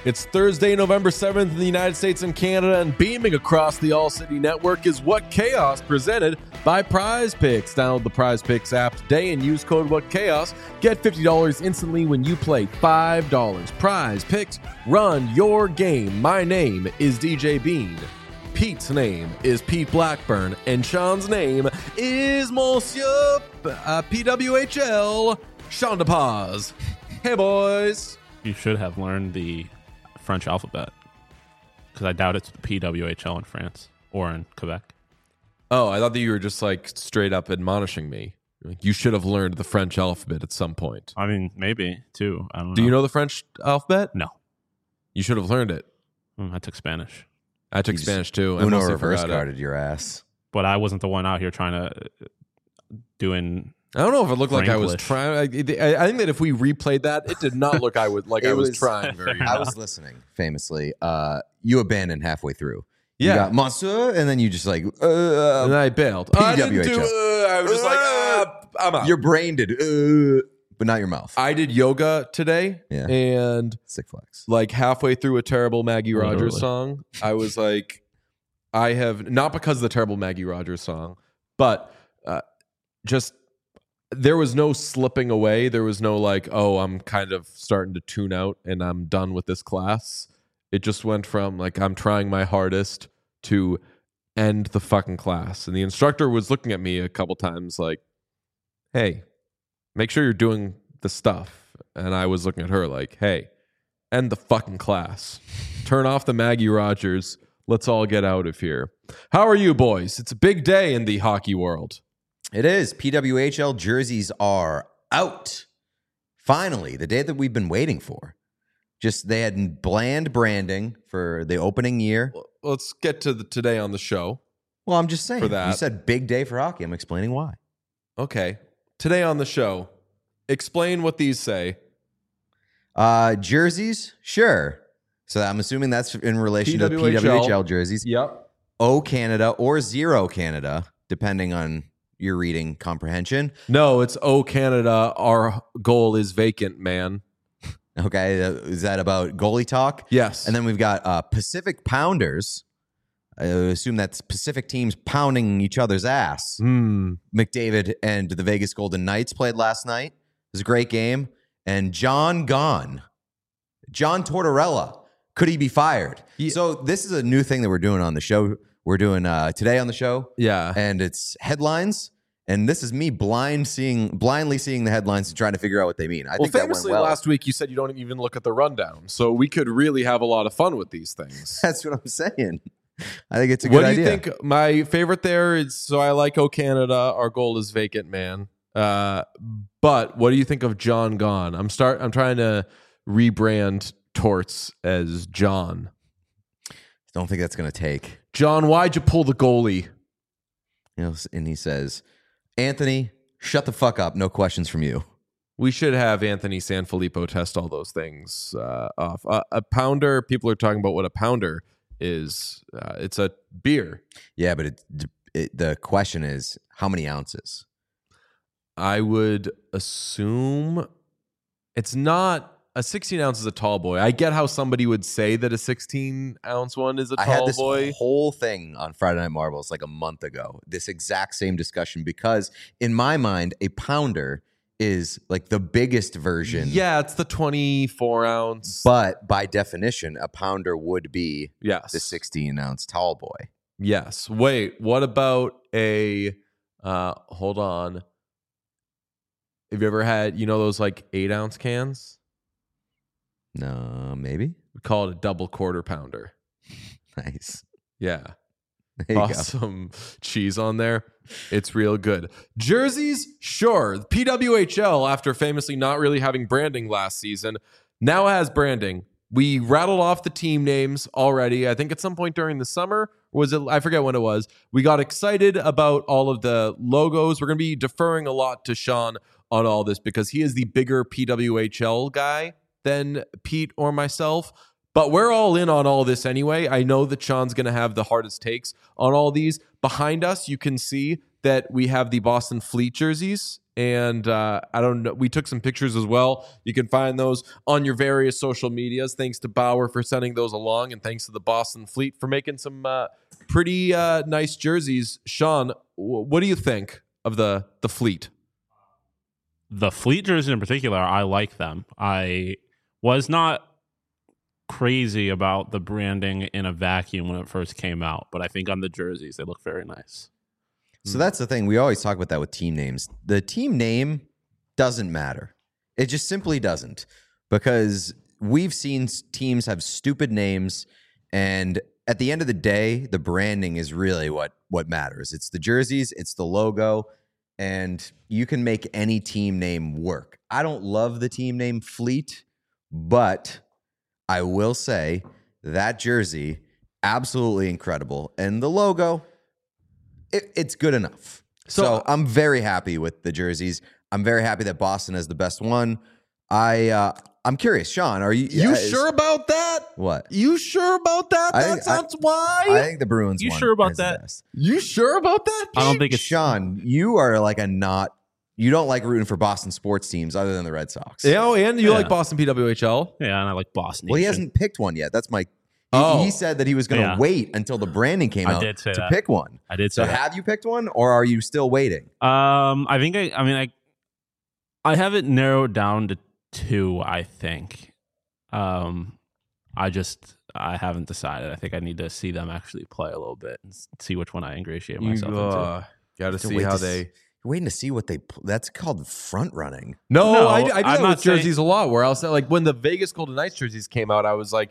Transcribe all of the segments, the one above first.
It's Thursday, November 7th in the United States and Canada, and beaming across the All City Network is What Chaos, presented by Prize Picks. Download the Prize Picks app today and use code What Chaos. Get $50 instantly when you play $5. Prize Picks, run your game. My name is DJ Bean. Pete's name is Pete Blackburn, and Sean's name is Monsieur PWHL Sean DePaz. Hey, boys. You should have learned the French alphabet, because I doubt it's the PWHL in France or in Quebec. Oh, I thought that you were just like straight up admonishing me. Like, you should have learned the French alphabet at some point. I mean, maybe too. I don't know. Do you know the French alphabet? No. You should have learned it. I took Spanish. I took Spanish too. Uno reverse carded your ass. But I wasn't the one out here trying to doing. I don't know if it looked like I was Franglish. trying. I think that if we replayed that, it did not look I was trying very I hard. was listening famously. You abandoned halfway through. Yeah. You got Monsieur, and then you just like, And I bailed. I didn't do. PWHL. I was just like, I'm out. your brain did, but not your mouth. I did yoga today, Yeah. and Sick flex. like halfway through a terrible Maggie Rogers Literally. song, I was like, I have not because of the terrible Maggie Rogers song, but just there was no slipping away. There was no like, oh, I'm kind of starting to tune out and I'm done with this class. It just went from like, I'm trying my hardest to end the fucking class. And the instructor was looking at me a couple times like, hey, make sure you're doing the stuff. And I was looking at her like, hey, end the fucking class. Turn off the Maggie Rogers. Let's all get out of here. How are you, boys? It's a big day in the hockey world. It is. PWHL jerseys are out. Finally, the day that we've been waiting for. Just they had bland branding for the opening year. Let's get to today on the show. Well, I'm just saying. For that. You said big day for hockey. I'm explaining why. Okay. Today on the show, explain what these say. Jerseys? Sure. So I'm assuming that's in relation to the PWHL jerseys. Yep. O Canada or Zero Canada, depending on your reading comprehension. No, it's Oh Canada, our goal is vacant, man. Okay. Is that about goalie talk? Yes. And then we've got Pacific Pounders. I assume that's Pacific teams pounding each other's ass. McDavid and the Vegas Golden Knights played last night. It was a great game. And John Tortorella, could he be fired? Yeah. So this is a new thing that we're doing on the show. We're doing today on the show. Yeah. And it's headlines. And this is me blindly seeing the headlines and trying to figure out what they mean. I think that went famously well. last week you said you don't even look at the rundown, so we could really have a lot of fun with these things. That's what I'm saying. I think it's a What good do you idea. think? My favorite there is, so I like Oh Canada, our goal is vacant, man. But what do you think of John Gone? I'm trying to rebrand Torts as John. Don't think that's going to take. John, why'd you pull the goalie? You know, and he says, Anthony, shut the fuck up. No questions from you. We should have Anthony Sanfilippo test all those things off. A pounder, people are talking about what a pounder is. It's a beer. Yeah, but the question is, how many ounces? I would assume it's not a 16 ounce is a tall boy. I get how somebody would say that a 16 ounce one is a I had tall this boy. whole thing on Friday Night Marbles like a month ago. This exact same discussion, because in my mind, a pounder is like the biggest version. Yeah, it's the 24 ounce. But by definition, a pounder would be Yes. the 16 ounce tall boy. Yes. Wait, what about a hold on. Have you ever had, those like 8 ounce cans? No, maybe. We call it a double quarter pounder. Nice. Yeah. There you Awesome cheese on there. It's real good. Jerseys, sure. PWHL, after famously not really having branding last season, now has branding. We rattled off the team names already. I think at some point during the summer, I forget when it was. We got excited about all of the logos. We're going to be deferring a lot to Sean on all this because he is the bigger PWHL guy than Pete or myself. But we're all in on all this anyway. I know that Sean's going to have the hardest takes on all these. Behind us, you can see that we have the Boston Fleet jerseys. And I don't know. We took some pictures as well. You can find those on your various social medias. Thanks to Bauer for sending those along, and thanks to the Boston Fleet for making some pretty nice jerseys. Sean, what do you think of the Fleet? The Fleet jerseys in particular, I like them. I was not crazy about the branding in a vacuum when it first came out, but I think on the jerseys they look very nice. So that's the thing. We always talk about that with team names. The team name doesn't matter. It just simply doesn't, because we've seen teams have stupid names, and at the end of the day, the branding is really what matters. It's the jerseys, it's the logo, and you can make any team name work. I don't love the team name Fleet, but I will say that jersey, absolutely incredible. And the logo, it's good enough. So I'm very happy with the jerseys. I'm very happy that Boston has the best one. I'm curious, Sean, are you sure about that? What? You sure about that? That's why. I think the Bruins You one sure about is the that? best. You sure about that? I don't think it's Sean, you are like you don't like rooting for Boston sports teams other than the Red Sox. And you Yeah. like Boston PWHL? Yeah, and I like Boston. Well, he Nation. hasn't picked one yet. That's my. Oh. He said that he was going to Yeah. wait until the branding came I out did say to that. pick one. I did So say that. have you picked one, or are you still waiting? I think I have it narrowed down to 2, I think. I haven't decided. I think I need to see them actually play a little bit and see which one I ingratiate myself into. Got to To see wait how to they. You're waiting to see what they. That's called front running. No, No, I do I'm that not with jerseys a lot. Where I'll say, like, when the Vegas Golden Knights jerseys came out, I was like,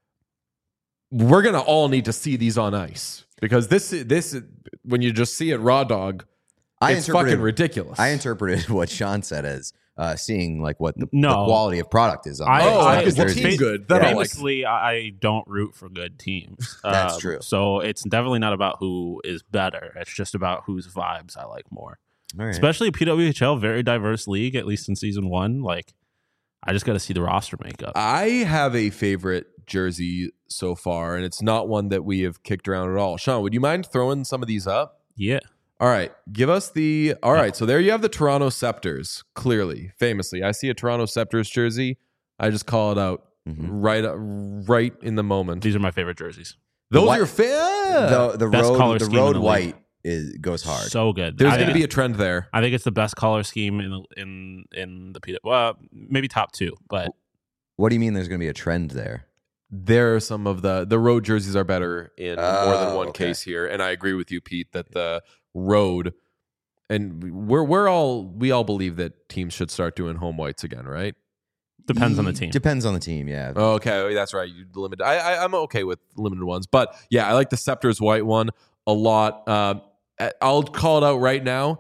we're gonna all need to see these on ice, because this when you just see it raw dog, it's fucking ridiculous. I interpreted what Sean said as seeing like what the No. quality of product is on. because the jerseys. team's good. That I like. Famously, I don't root for good teams. That's true. So it's definitely not about who is better. It's just about whose vibes I like more. All right. Especially PWHL, very diverse league, at least in season 1. Like, I just got to see the roster makeup. I have a favorite jersey so far, and it's not one that we have kicked around at all. Sean, would you mind throwing some of these up? Yeah. All right, give us the. All right, so there you have the Toronto Scepters. Clearly, famously, I see a Toronto Scepters jersey, I just call it out right in the moment. These are my favorite jerseys. Those What? are fair. The Best color road scheme in road the league. white goes hard. So good. There's I going to think- be a trend there. I think it's the best color scheme in the PW. Well, maybe top 2, but What do you mean? There's going to be a trend there? There are some of the road jerseys are better in more than one okay. case here, and I agree with you, Pete, that the road, and we all believe that teams should start doing home whites again, right? depends on the team. Depends on the team. Yeah. Okay, that's right. You limit. I'm okay with limited ones, but yeah, I like the Scepters white one a lot. I'll call it out right now.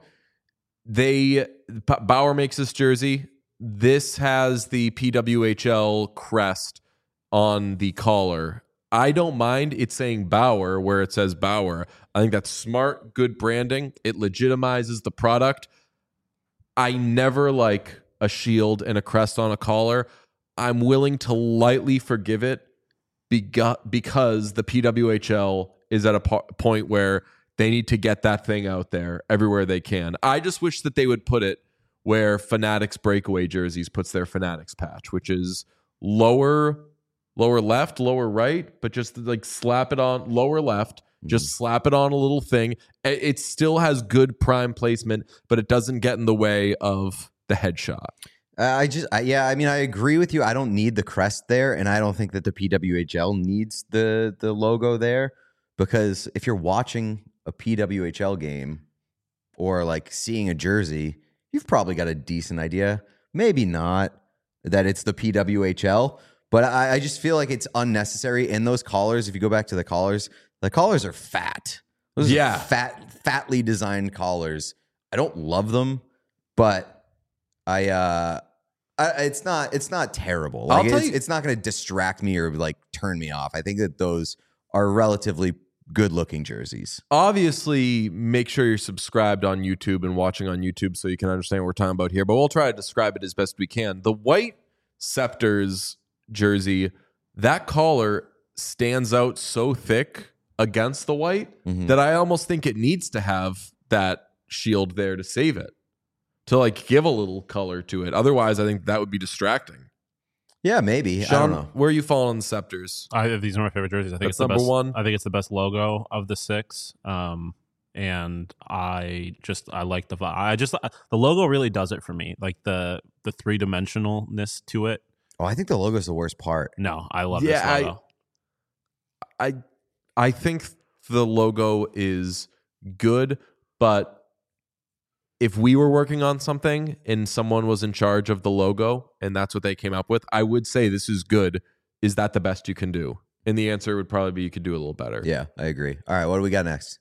Bauer makes this jersey. This has the PWHL crest on the collar. I don't mind it saying Bauer where it says Bauer. I think that's smart, good branding. It legitimizes the product. I never like a shield and a crest on a collar. I'm willing to lightly forgive it because the PWHL is at a point where they need to get that thing out there everywhere they can. I just wish that they would put it where Fanatics Breakaway Jerseys puts their Fanatics patch, which is lower left, lower right, but just like slap it on lower left, just slap it on a little thing. It still has good prime placement, but it doesn't get in the way of the headshot. I agree with you. I don't need the crest there, and I don't think that the PWHL needs the logo there, because if you're watching a PWHL game or like seeing a jersey, you've probably got a decent idea. Maybe not that it's the PWHL, but I just feel like it's unnecessary. And those collars, if you go back to the collars are fat. Those are fatly designed collars. I don't love them, but it's not terrible. Like, it's not going to distract me or like turn me off. I think that those are relatively good looking jerseys. Obviously, make sure you're subscribed on YouTube and watching on YouTube so you can understand what we're talking about here, but we'll try to describe it as best we can. The white Scepters jersey, that collar stands out so thick against the white that I almost think it needs to have that shield there to save it, to like give a little color to it. Otherwise, I think that would be distracting. Yeah, maybe. Sean, I don't know. where are you falling on the Scepters? These are my favorite jerseys. I think That's it's the number best one? I think it's the best logo of the 6. And I like the the logo really does it for me. Like the 3-dimensionalness to it. Oh, I think the logo is the worst part. No, I love this logo. I think the logo is good, but if we were working on something and someone was in charge of the logo and that's what they came up with, I would say this is good. Is that the best you can do? And the answer would probably be you could do a little better. Yeah, I agree. All right, what do we got next?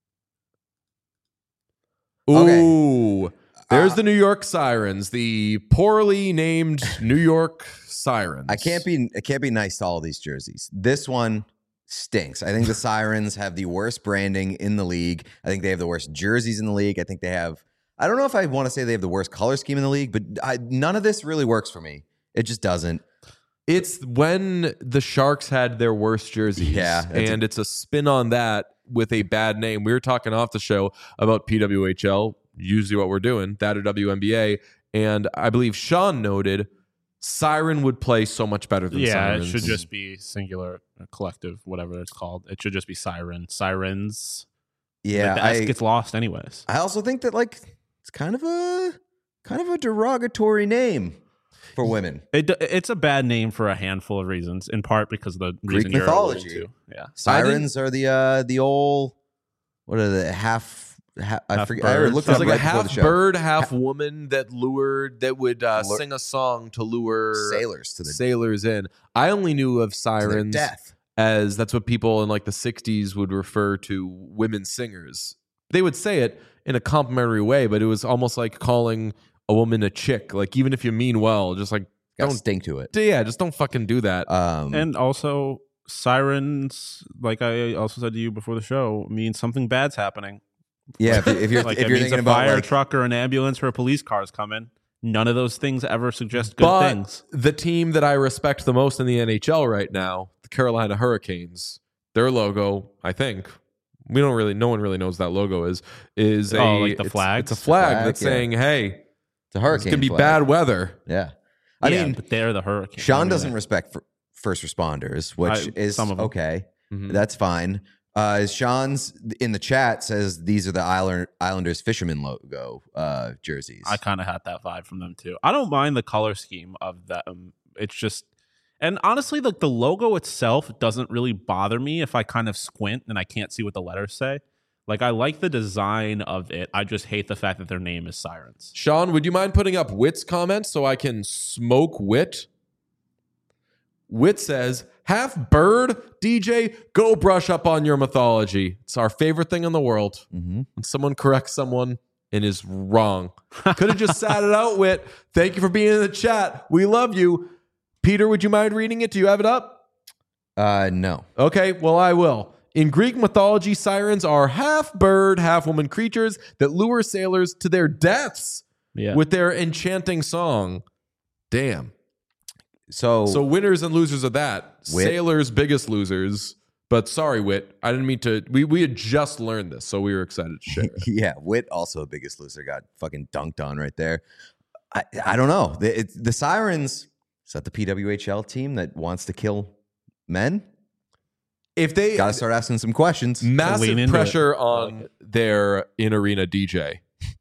Ooh, there's the New York Sirens, the poorly named New York Sirens. I can't be nice to all these jerseys. This one stinks. I think the Sirens have the worst branding in the league. I think they have the worst jerseys in the league. I think they have, I don't know if I want to say they have the worst color scheme in the league, but none of this really works for me. It just doesn't. It's when the Sharks had their worst jerseys. Yeah. And it's a spin on that with a bad name. We were talking off the show about PWHL, usually what we're doing, that or WNBA. And I believe Sean noted Siren would play so much better than Sirens. It should just be singular, collective, whatever it's called. It should just be Siren. Sirens. Yeah. The S gets lost anyways. I also think that like it's kind of a derogatory name for women. It's a bad name for a handful of reasons, in part because of the Greek reason you're mythology. alluding to. Yeah. Sirens are the old, what are the half I forget. I bird. looked It was it up like a right before the half show. bird, half woman that would sing a song to lure Sailors to the sailors in. I only knew of Sirens death. as that's what people in like the 60s would refer to women singers. They would say it in a complimentary way, but it was almost like calling a woman a chick. Like even if you mean well, just like Got don't stink to it. yeah, just don't fucking do that. And also, sirens, like I also said to you before the show, means something bad's happening. Yeah, if you're Like if it you're means thinking a about fire like, truck or an ambulance or a police car's coming. None of those things ever suggest good but things. the team that I respect the most in the NHL right now, the Carolina Hurricanes, their logo, I think, no one really knows what that logo is like the flag? It's a flag Flag, that's yeah. saying, hey, it's a it's hurricane. gonna be flag. bad weather. Yeah, I mean, but they're the Hurricanes. Sean doesn't respect first responders, which is some of them. okay. Mhm. That's fine. Sean's in the chat says these are the Islanders fisherman logo jerseys. I kind of had that vibe from them too. I don't mind the color scheme of them. It's just, and honestly, the logo itself doesn't really bother me if I kind of squint and I can't see what the letters say. Like I like the design of it. I just hate the fact that their name is Sirens. Sean, would you mind putting up Wit's comment so I can smoke Wit? Wit says, half bird, DJ, go brush up on your mythology. It's our favorite thing in the world. Mhm. When someone corrects someone and is wrong. Could have just sat it out, Wit. Thank you for being in the chat. We love you. Peter, would you mind reading it? Do you have it up? No. Okay, well, I will. In Greek mythology, sirens are half bird, half woman creatures that lure sailors to their deaths Yeah. with their enchanting song. Damn. So winners and losers of that. Wit. Sailors, biggest losers. But sorry, Wit. I didn't mean to. We had just learned this, so we were excited to share it. yeah, Wit also a biggest loser got fucking dunked on right there. I don't know. The Sirens, is that the PWHL team that wants to kill men? If they Got to start asking some questions. Lean massive into pressure it. I on like it. their in-arena DJ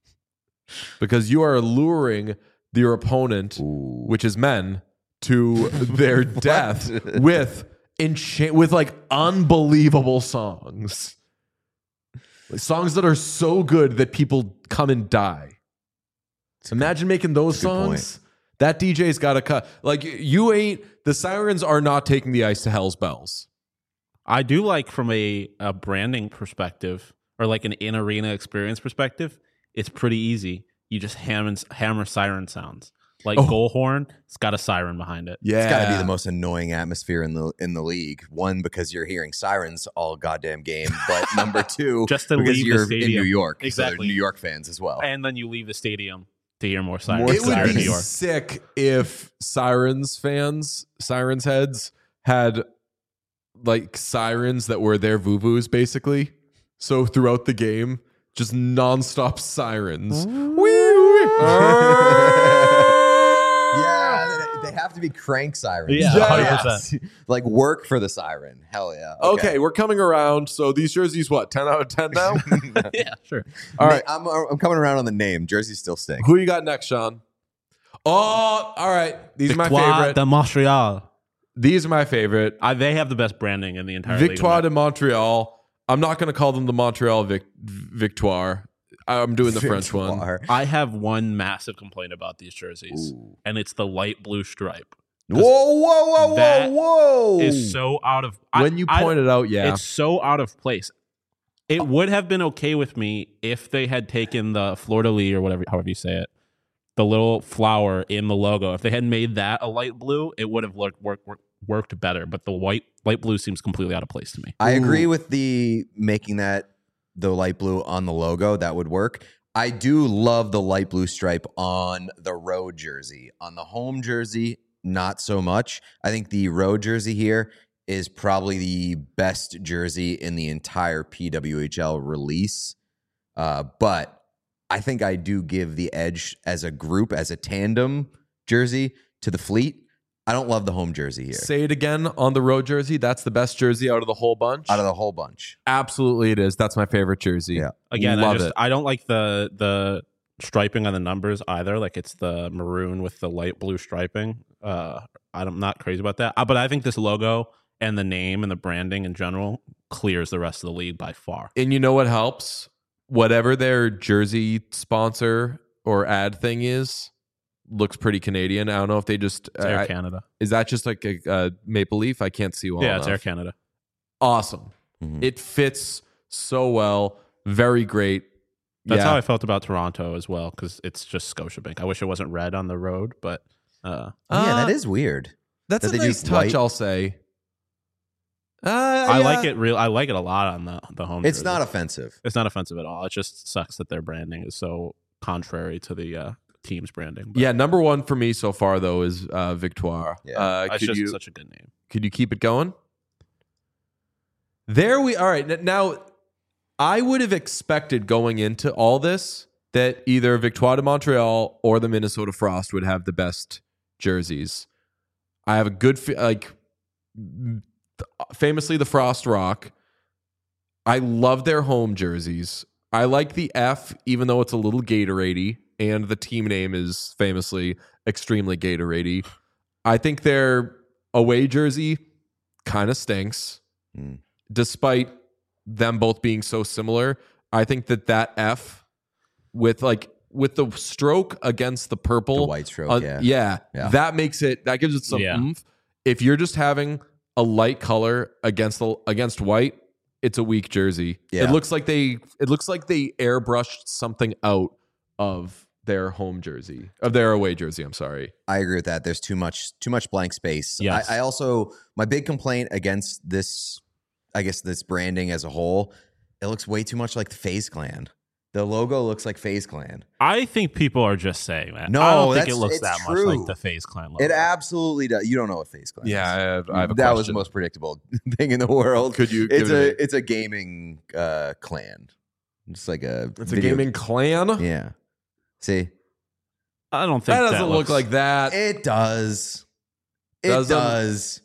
because you are luring your opponent, Ooh. which is men, to their death with like unbelievable songs. Like songs that are so good that people come and die. Imagine making those That's a good songs. That DJ's got to cut. Like the Sirens are not taking the ice to Hell's Bells. I do like from a branding perspective or like an in-arena experience perspective, it's pretty easy. You just hammer siren sounds. Like goal horn, it's got a siren behind it. Yeah. It's got to be the most annoying atmosphere in the league. One, because you're hearing sirens all goddamn game, but number two, Just to because leave the you're in stadium. New York, so they're Exactly. New York fans as well. And then you leave the stadium to hear more sirens. More It would in New be York. sick if Sirens heads had like sirens that were their vuvus basically. So throughout the game, just nonstop sirens. Yeah, they have to be crank sirens. Yeah, Yes. 100%. Like work for the siren. Hell yeah. Okay, we're coming around. So these jerseys, what, 10 out of 10 now? Yeah, sure. All right. I'm coming around on the name. Jersey still stinks. Who you got next, Sean? Oh, all right. These are my Victoire favorite. de Montreal. These are my favorite. They have the best branding in the entire league. Victoire de Montreal. I'm not going to call them the Montreal Victoire. I'm doing the French one. Victoire. I have one massive complaint about these jerseys, and it's the light blue stripe. Whoa. That is so out of When you point it out, yeah. it's so out of place. It would have been okay with me if they had taken the fleur de lis or whatever, however you say it, the little flower in the logo. If they had made that a light blue, it would have worked better. But the light blue seems completely out of place to me. I agree with the making that the light blue on the logo. That would work. I do love the light blue stripe on the road jersey. On the home jersey, not so much. I think the road jersey here is probably the best jersey in the entire PWHL release. But I think I do give the edge as a group, as a tandem jersey to the Fleet. I don't love the home jersey here. Say it again on the road jersey. That's the best jersey out of the whole bunch. Out of the whole bunch. Absolutely, it is. That's my favorite jersey. Yeah. Again, Love it. I don't like the striping on the numbers either. Like it's the maroon with the light blue striping. I'm not crazy about that. But I think this logo and the name and the branding in general clears the rest of the league by far. And you know what helps? Whatever their jersey sponsor or ad thing is, looks pretty Canadian. I don't know if they just It's Air Canada. Is that just like a Maple Leaf? I can't see well Yeah, enough. it's Air Canada. Awesome. Mhm. It fits so well. Very great. That's Yeah. how I felt about Toronto as well, because it's just Scotiabank. I wish it wasn't red on the road, but Yeah, that is weird. That's that a they nice do touch, white. I'll say. I like it. I like it a lot on the home. It's jersey. not offensive. It's not offensive at all. It just sucks that their branding is so contrary to the team's branding. But Yeah, number one for me so far though is Victoire. Yeah. it's just such a good name. Could you keep it going? All right. Now, I would have expected going into all this that either Victoire de Montreal or the Minnesota Frost would have the best jerseys. I have a good famously the Frost Rock. I love their home jerseys. I like the F, even though it's a little Gatorade-y, and the team name is famously extremely Gatorade-y. I think their away jersey kind of stinks, despite them both being so similar. I think that F with the stroke against the purple, The white stroke, yeah. that gives it some oomph. If you're just having a light color against white, it's a weak jersey. Yeah. It looks like they airbrushed something out of their home jersey, of their away jersey. I'm sorry. I agree with that. There's too much blank space. Yes. I also, my big complaint against this, I guess this branding as a whole, it looks way too much like the FaZe Clan. The logo looks like FaZe Clan. I think people are just saying that. No, I don't think it that's- looks it's that true. much like the FaZe Clan logo. It absolutely does. You don't know what FaZe Clan is. Yeah, I have a that was question. the most predictable thing in the world. Could you give It's a gaming clan. It's like a It's a video- gaming clan. Yeah. See, I don't think That doesn't look looks like that. it does. It Doesn't? does.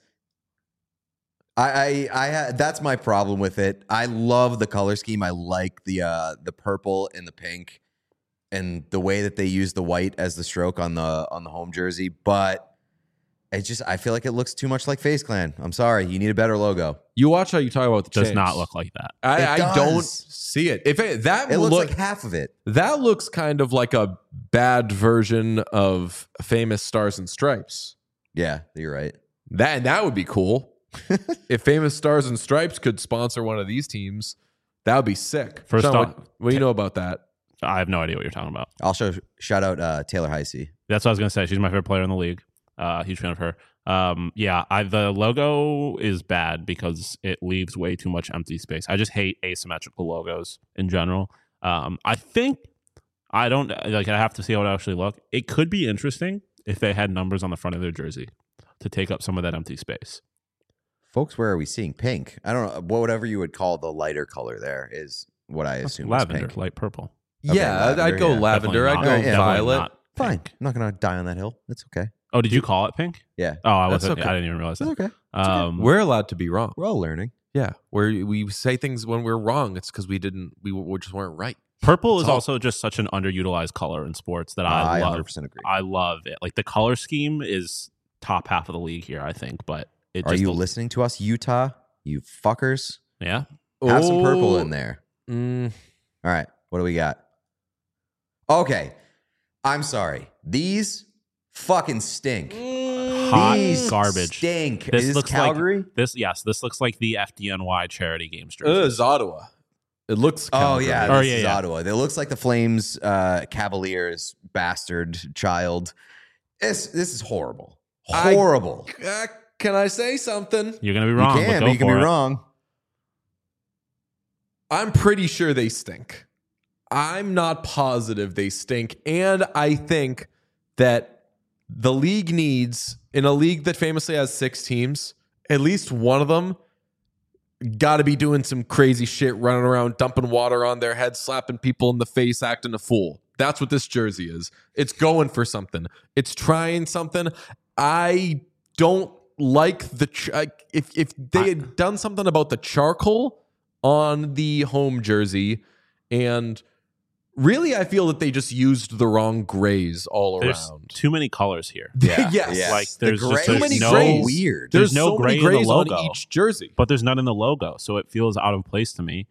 I that's my problem with it. I love the color scheme. I like the purple and the pink and the way that they use the white as the stroke on the home jersey, but I feel like it looks too much like FaZe Clan. I'm sorry. You need a better logo. You watch how you talk about the does chains. not look like that. I It don't does. see it. If it It looks like half of it. that looks kind of like a bad version of Famous Stars and Stripes. Yeah, you're right. That would be cool. If Famous Stars and Stripes could sponsor one of these teams, that would be sick. First Sean, off- what do you know about that? I have no idea what you're talking about. Also, shout out Taylor Heisey. That's what I was going to say. She's my favorite player in the league. Huge fan of her. The logo is bad because it leaves way too much empty space. I just hate asymmetrical logos in general. I have to see how it actually look. It could be interesting if they had numbers on the front of their jersey to take up some of that empty space. Folks, where are we seeing pink? I don't know. Whatever you would call the lighter color there is what I assume Lavender, is pink. light purple. Okay, Yeah, lavender, I'd go yeah. lavender. I'd Definitely go not- violet. definitely not Fine. pink. I'm not gonna die on that hill. It's okay. Oh, did you call it pink? Yeah, Oh, I That's wasn't. okay. I didn't even realize it's that. okay. We're allowed to be wrong. We're all learning. Yeah, we say things when we're wrong. It's because we just weren't right. Purple That's is all. also just such an underutilized color in sports that I love. 100% agree. I love it. Like the color scheme is top half of the league here, I think. But it Are just you listening to us, Utah? You fuckers. Yeah. Have some purple Oh, in there. mm, All right. What do we got? Okay. I'm sorry. These fucking stink. Hot These garbage. stink. This Is looks Calgary? like this looks like the FDNY charity games jersey. it's Ottawa. It looks. Oh Calgary. yeah, Oh, this yeah, is yeah. Ottawa. It looks like the Flames Cavaliers bastard child. This is horrible. Horrible. Can I say something? You're gonna be You wrong. can, but but go you can for be it. wrong. I'm pretty sure they stink. I'm not positive they stink, and I think that the league needs, in a league that famously has 6 teams, at least one of them got to be doing some crazy shit, running around, dumping water on their head, slapping people in the face, acting a fool. That's what this jersey is. It's going for something. It's trying something. I don't like if they had done something about the charcoal on the home jersey, and really, I feel that they just used the wrong grays all There's around. too many colors here. Yes. Like The there's gray just too is many no grays. weird. There's no so many gray in the grays on logo. each jersey. But there's none in the logo, so it feels out of place to me.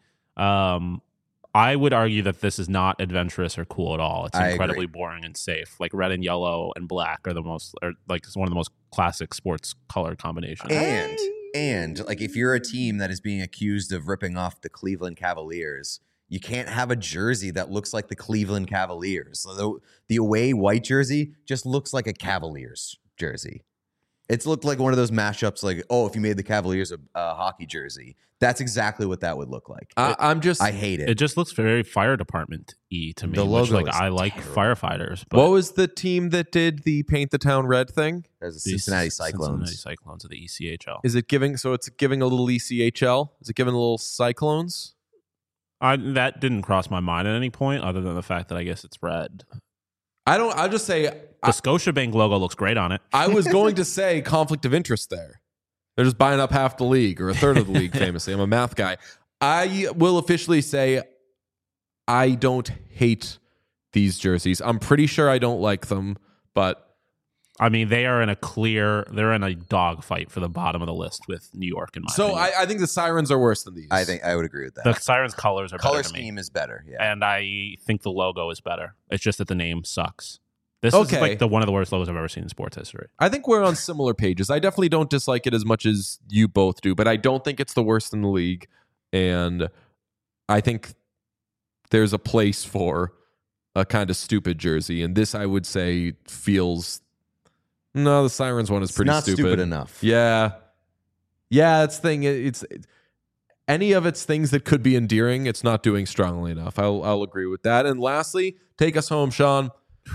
I would argue that this is not adventurous or cool at all. It's I incredibly agree. boring and safe. Like red and yellow and black are it's one of the most classic sports color combinations. And like if you're a team that is being accused of ripping off the Cleveland Cavaliers, you can't have a jersey that looks like the Cleveland Cavaliers. So the away white jersey just looks like a Cavaliers jersey. It's looked like one of those mashups like, oh, if you made the Cavaliers a hockey jersey, that's exactly what that would look like. I hate it. It just looks very fire department-y to me. The logo which, is I like terrible. firefighters. But What was the team that did the paint the town red thing? There's the the Cincinnati Cyclones. Cincinnati Cyclones of the ECHL. Is it giving? So it's giving a little ECHL. Is it giving a little Cyclones? That didn't cross my mind at any point, other than the fact that I guess it's red. I'll just say The Scotiabank logo looks great on it. I was going to say conflict of interest there. They're just buying up half the league or a third of the league, famously. I'm a math guy. I will officially say I don't hate these jerseys. I'm pretty sure I don't like them, but I mean, they're in a dogfight for the bottom of the list with New York in my so opinion. I think the Sirens are worse than these. I think I would agree with that. The Sirens colors are Color better to me. scheme is better. Yeah. And I think the logo is better. It's just that the name sucks. This is like one of the worst logos I've ever seen in sports history. I think we're on similar pages. I definitely don't dislike it as much as you both do, but I don't think it's the worst in the league. And I think there's a place for a kind of stupid jersey. And this, I would say, feels... No, the Sirens one is pretty not stupid enough. Yeah. Yeah, that's the thing. It's any of its things that could be endearing, it's not doing strongly enough. I'll agree with that. And lastly, take us home, Sean.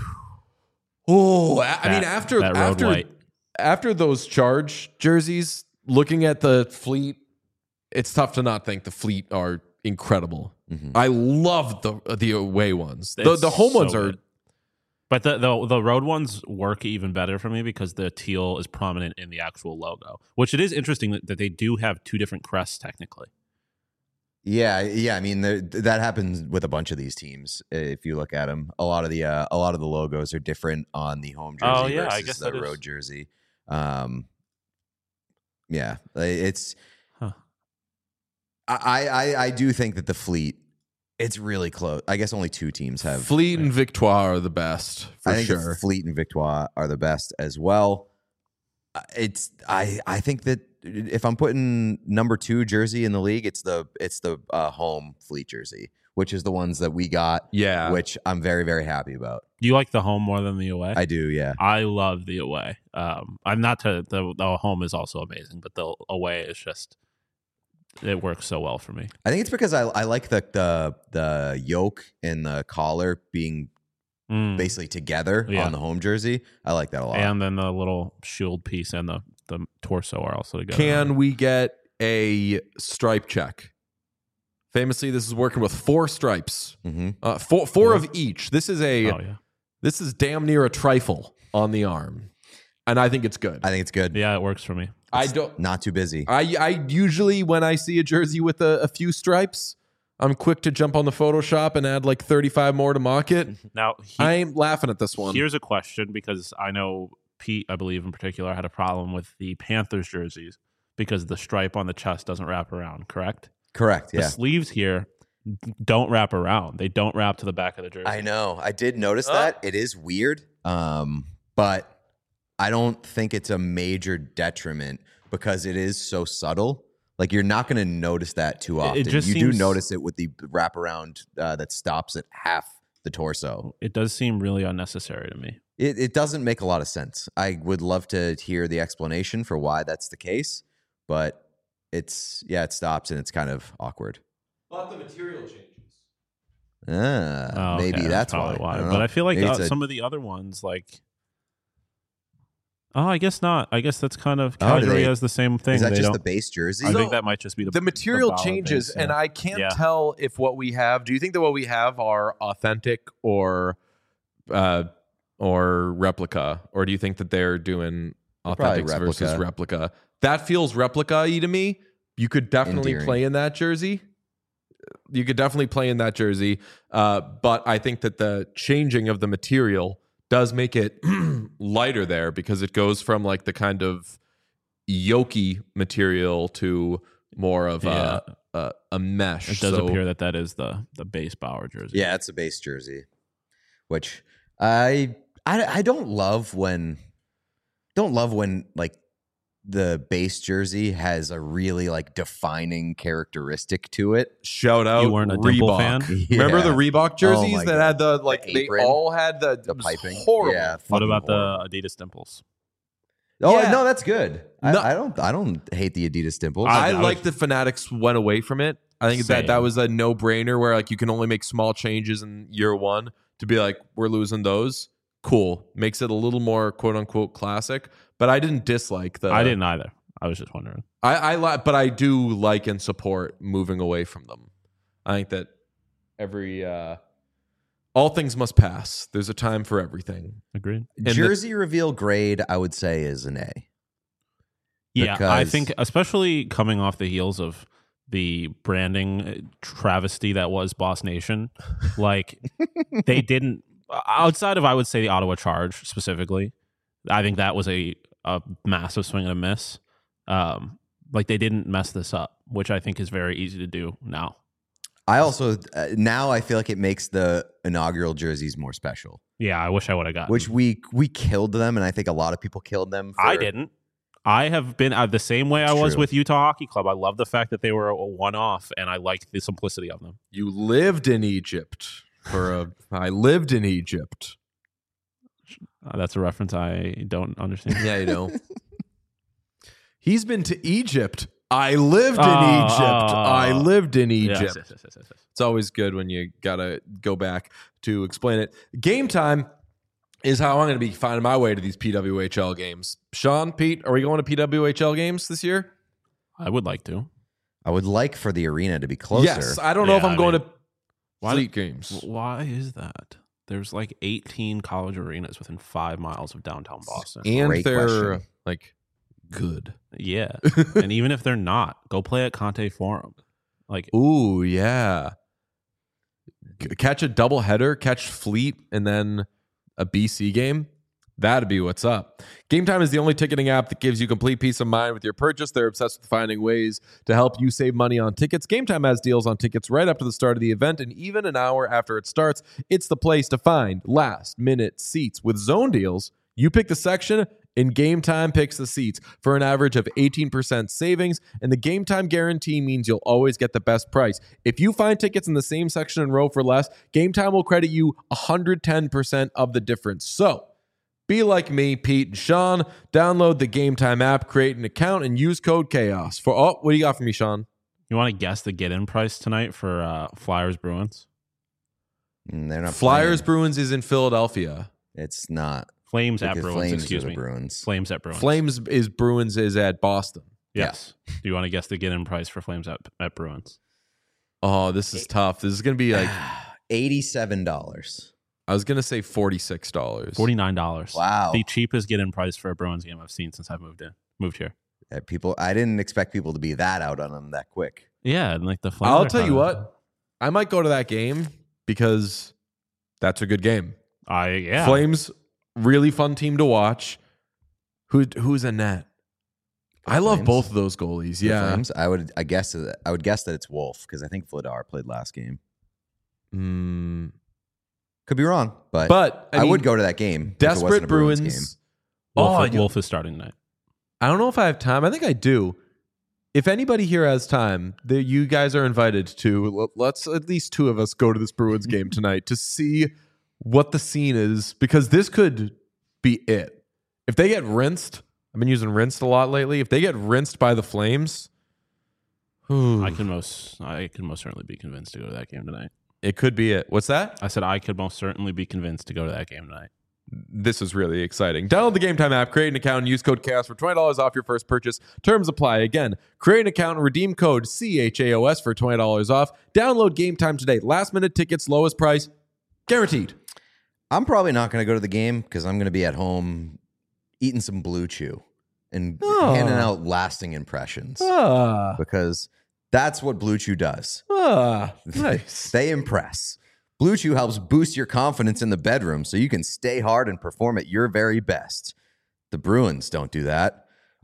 Oh, I mean, after those Charge jerseys, looking at the Fleet, it's tough to not think the Fleet are incredible. Mhm. I love the away ones. It's The home so ones are. good. But the road ones work even better for me because the teal is prominent in the actual logo, which it is interesting that they do have two different crests technically. Yeah. I mean, that happens with a bunch of these teams. If you look at them, a lot of the logos are different on the home jersey Oh, yeah, versus I guess the that is- road jersey. Yeah, it's. Huh. I do think that the Fleet, it's really close. I guess only 2 teams have. Fleet and Victoire are the best for I think sure. the Fleet and Victoire are the best as well. I think that if I'm putting number 2 jersey in the league, it's the home Fleet jersey, which is the ones that we got. Yeah. Which I'm very, very happy about. You like the home more than the away? I do, yeah. I love the away. I'm not the home is also amazing, but the away is just it works so well for me. I think it's because I like the yoke and the collar being basically together on the home jersey. I like that a lot. And then the little shield piece and the torso are also together. Can we get a stripe check Famously, this is working with 4 stripes, Mm-hmm. four of each. This is Oh yeah, this is damn near a trifle on the arm, and I think it's good. I think it's good. yeah, it works for me. I don't. Not too busy. I usually, when I see a jersey with a few stripes, I'm quick to jump on the Photoshop and add like 35 more to mock it. Now I ain't laughing at this one. here's a question, because I know Pete, I believe in particular, had a problem with the Panthers jerseys because the stripe on the chest doesn't wrap around. Correct. Correct. The Yeah. sleeves here don't wrap around. They don't wrap to the back of the jersey. I know. I did notice that. It is weird. But I don't think it's a major detriment because it is so subtle. Like you're not going to notice that too often. just You do seems- notice it with the wraparound that stops at half the torso. It does seem really unnecessary to me. It doesn't make a lot of sense. I would love to hear the explanation for why that's the case, but it stops and it's kind of awkward. But the material changes. Ah, Oh, maybe okay, that's probably why. I don't But know. I feel like Maybe it's a- some of the other ones, like, I guess not. I guess that's kind of Oh, do casually they- as the same thing. Is that They just don't- the base jersey? I So- think that might just be The material ballot changes, base, yeah. and I can't Yeah. tell if what we have. Do you think that what we have are authentic or replica, or do you think that they're doing probably authentics versus replica. replica? That feels replica-y to me. You could definitely Endearing. play in that jersey. You could definitely play in that jersey, but I think that the changing of the material does make it lighter there because it goes from like the kind of yolky material to more of Yeah. a mesh. It does So- appear that is the base Bauer jersey. Yeah, it's a base jersey, which I don't love when like the base jersey has a really like defining characteristic to it. Shout out You weren't a Dimple Reebok. fan? Remember the Yeah. Reebok jerseys my that God. had the like The they apron, all had the The piping, horrible. Yeah. What fucking about horrible. the Adidas dimples? Oh Yeah. no, that's good. No. I don't hate the Adidas dimples. I I like was- the Fanatics went away from it. I think that Same. was a no brainer where like you can only make small changes in year one to be like we're losing those. Cool, makes it a little more quote unquote classic. But I didn't dislike the. I didn't either. I was just wondering. I like, but I do like and support moving away from them. I think that every all things must pass. There's a time for everything. Agreed. the- jersey reveal grade, I would say, is an A. Yeah, I Because- think especially coming off the heels of the branding travesty that was Boss Nation, like they didn't outside of I would say the Ottawa Charge specifically. I think that was a massive swing and a miss. Like they didn't mess this up, which I think is very easy to do now. I also now I feel like it makes the inaugural jerseys more special, Yeah, I wish I would have gotten. which we killed them, and I think a lot of people killed them. I didn't. I have been the same way I was True. with Utah Hockey Club. I love the fact that they were a one-off, and I liked the simplicity of them. You lived in Egypt I lived in Egypt. That's a reference I don't understand. Yeah, you know. He's been to Egypt. I lived in Oh, Egypt. I lived in Yes, Egypt. yes. It's always good when you gotta go back to explain it. Game time is how I'm going to be finding my way to these PWHL games. Sean, Pete, are we going to PWHL games this year? I would like to. I would like for the arena to be closer. Yes. I don't know if Yeah, I'm I going mean, to why- Fleet games. Why is that? There's like 18 college arenas within 5 miles of downtown Boston. And Great they're question. like good. Yeah. And even if they're not, go play at Conte Forum. Like, Ooh, yeah. Catch a double header, catch Fleet, and then a BC game. That'd be what's up. Game Time is the only ticketing app that gives you complete peace of mind with your purchase. They're obsessed with finding ways to help you save money on tickets. Game Time has deals on tickets right up to the start of the event, and even an hour after it starts. It's the place to find last-minute seats. With zone deals, you pick the section, and Game Time picks the seats for an average of 18% savings, and the Game Time guarantee means you'll always get the best price. If you find tickets in the same section and row for less, Game Time will credit you 110% of the difference. So, be like me, Pete and Sean. Download the Game Time app, create an account, and use code CHAOS. What do you got for me, Sean? you want to guess the get-in price tonight for Flyers Bruins? They're not Flyers playing. Bruins is in Philadelphia. It's not. Flames at Because Bruins, Flames excuse are the me. Bruins. Flames at Bruins. Flames is Bruins is at Boston. Yes. Do you want to guess the get-in price for Flames at Bruins? Oh, this is tough. This is going to be like $87. I was going to say $46. $49. Wow. The cheapest get-in price for a Bruins game I've seen since I've moved here. I didn't expect people to be that out on them that quick. Yeah, and like the Flames I'll are tell you kinda- what. I might go to that game because that's a good game. Yeah. Flames, really fun team to watch. Who's in net? I love Flames? both of those goalies. The Yeah. Flames? I would guess that it's Wolf because I think Vladar played last game. Could be wrong, but I I mean, would go to that game. if it wasn't Desperate a Bruins Bruins. Wolf, you- Wolf is starting tonight. I don't know if I have time. I think I do. If anybody here has time, you guys are invited to. Let's at least two of us go to this Bruins game tonight to see what the scene is, because this could be it. If they get rinsed, I've been using rinsed a lot lately. If they get rinsed by the Flames, I can most certainly be convinced to go to that game tonight. it could be it. What's that? I said I could most certainly be convinced to go to that game tonight. This is really exciting. Download the Game Time app, create an account, and use code CHAOS for $20 off your first purchase. Terms apply. Again, create an account and redeem code CHAOS for $20 off. Download Game Time today. Last minute tickets, lowest price, guaranteed. I'm probably not going to go to the game because I'm going to be at home eating some Blue Chew and handing out lasting impressions because that's what Blue Chew does. Nice. They impress. Blue Chew helps boost your confidence in the bedroom so you can stay hard and perform at your very best. The Bruins don't do that.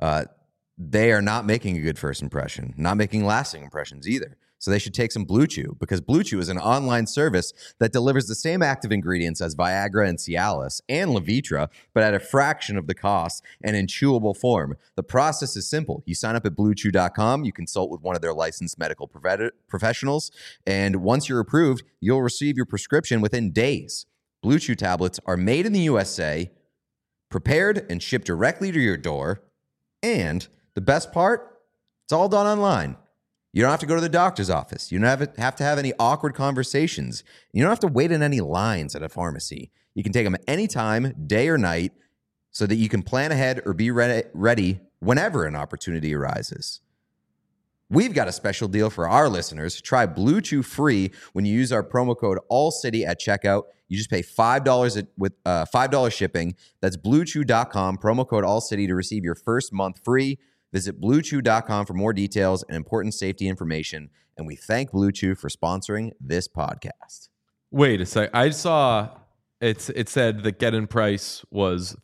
They are not making a good first impression, not making lasting impressions either. So they should take some Blue Chew, because Blue Chew is an online service that delivers the same active ingredients as Viagra and Cialis and Levitra, but at a fraction of the cost and in chewable form. The process is simple. You sign up at BlueChew.com, you consult with one of their licensed medical professionals, and once you're approved, you'll receive your prescription within days. Blue Chew tablets are made in the USA, prepared and shipped directly to your door, and the best part, it's all done online. You don't have to go to the doctor's office. You don't have to have any awkward conversations. You don't have to wait in any lines at a pharmacy. You can take them anytime, day or night, so that you can plan ahead or be ready whenever an opportunity arises. We've got a special deal for our listeners. Try Blue Chew free when you use our promo code ALLCITY at checkout. You just pay $5 with $5 shipping. That's BlueChew.com, promo code ALLCITY to receive your first month free. Visit BlueChew.com for more details and important safety information. And we thank Blue Chew for sponsoring this podcast. Wait a sec. I saw it said the get-in price was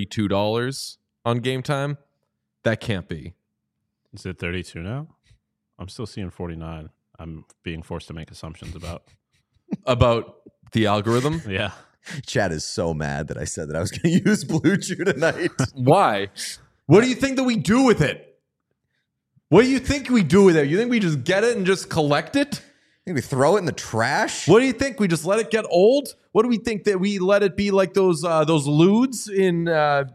$32 on Game Time. That can't be. Is it 32 now? I'm still seeing 49. I'm being forced to make assumptions about. About the algorithm? Yeah. Chad is so mad that I said that I was going to use Blue Chew tonight. Why? What do you think that we do with it? What do you think we do with it? You think we just get it and just collect it? Think we throw it in the trash? What do you think? We just let it get old? What do we think, that we let it be like those ludes in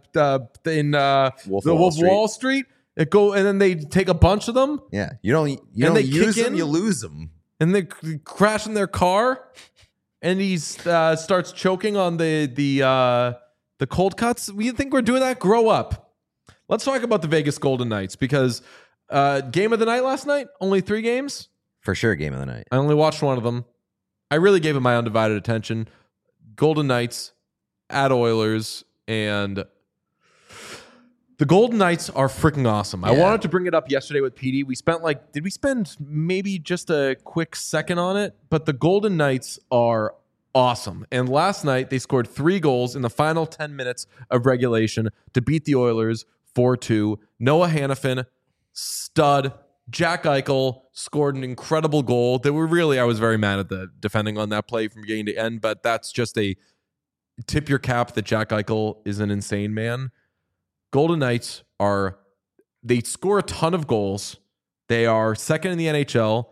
Wolf the of Wolf of Wall Street? It go, and then they take a bunch of them Yeah, you don't they use kick them, in? you lose them. and they crash in their car, and he starts choking on the cold cuts. We think we're doing that? Grow up. Let's talk about the Vegas Golden Knights, because game of the night last night, only 3 games. For sure, game of the night. I only watched one of them. I really gave it my undivided attention. Golden Knights at Oilers, and the Golden Knights are freaking awesome. I Yeah. wanted to bring it up yesterday with PD. Did we spend maybe just a quick second on it? But the Golden Knights are awesome. And last night they scored 3 goals in the final 10 minutes of regulation to beat the Oilers 4-2. Noah Hannafin, stud. Jack Eichel scored an incredible goal. I was very mad at the defending on that play from beginning to end, but that's just a tip your cap that Jack Eichel is an insane man. Golden Knights they score a ton of goals. They are second in the NHL,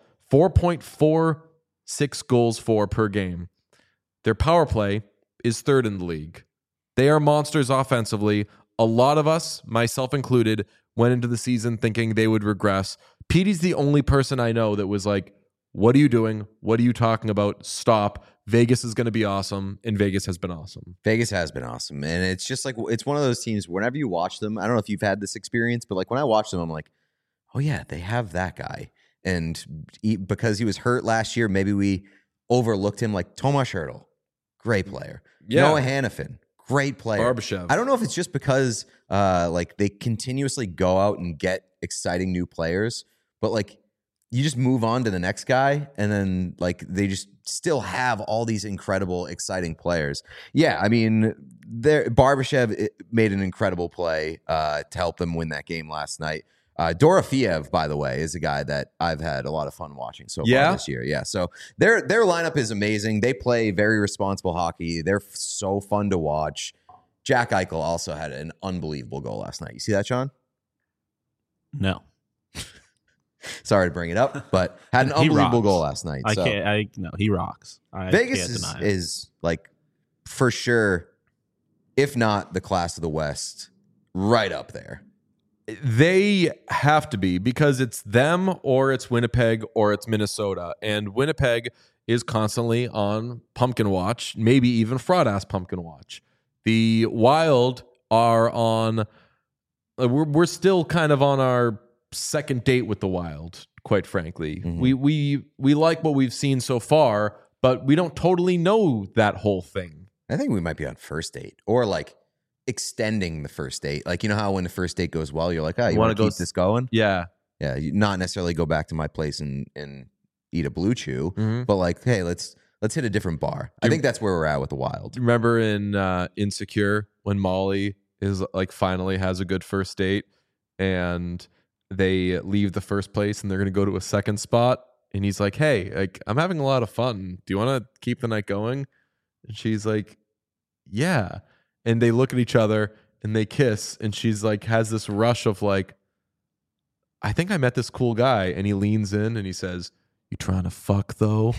4.46 goals per game. Their power play is third in the league. They are monsters offensively. A lot of us, myself included, went into the season thinking they would regress. Petey's the only person I know that was like, what are you doing? What are you talking about? Stop. Vegas is going to be awesome, and Vegas has been awesome. Vegas has been awesome. And it's just like, it's one of those teams, whenever you watch them, I don't know if you've had this experience, but like when I watch them, I'm like, oh yeah, they have that guy. And because he was hurt last year, maybe we overlooked him. Like Tomas Hertl, great player. Yeah. Noah Hannafin, great player. Barbashev. I don't know if it's just because like they continuously go out and get exciting new players, but like you just move on to the next guy, and then like they just still have all these incredible, exciting players. Yeah, I mean, Barbashev made an incredible play to help them win that game last night. Dorofeev, by the way, is a guy that I've had a lot of fun watching so far this year. Yeah, so their lineup is amazing. They play very responsible hockey. They're so fun to watch. Jack Eichel also had an unbelievable goal last night. You see that, Sean? No. Sorry to bring it up, but had an unbelievable goal last night. No, he rocks. Vegas is like for sure, if not the class of the West, right up there. They have to be, because it's them or it's Winnipeg or it's Minnesota. And Winnipeg is constantly on pumpkin watch, maybe even fraud-ass pumpkin watch. The Wild are on... We're still kind of on our second date with the Wild, quite frankly. Mm-hmm. We like what we've seen so far, but we don't totally know that whole thing. I think we might be on first date, or like extending the first date. Like, you know how when the first date goes well, you're like, oh, you want to keep this going? Yeah. Yeah. You not necessarily go back to my place and eat a Blue Chew, Mm-hmm. but like, hey, let's hit a different bar. I think that's where we're at with the Wild. Remember in Insecure when Molly is like finally has a good first date and they leave the first place and they're going to go to a second spot, and he's like, hey, like, I'm having a lot of fun. Do you want to keep the night going? And she's like, yeah. And they look at each other and they kiss, and she's like, has this rush of like, I think I met this cool guy. And he leans in and he says, you trying to fuck though?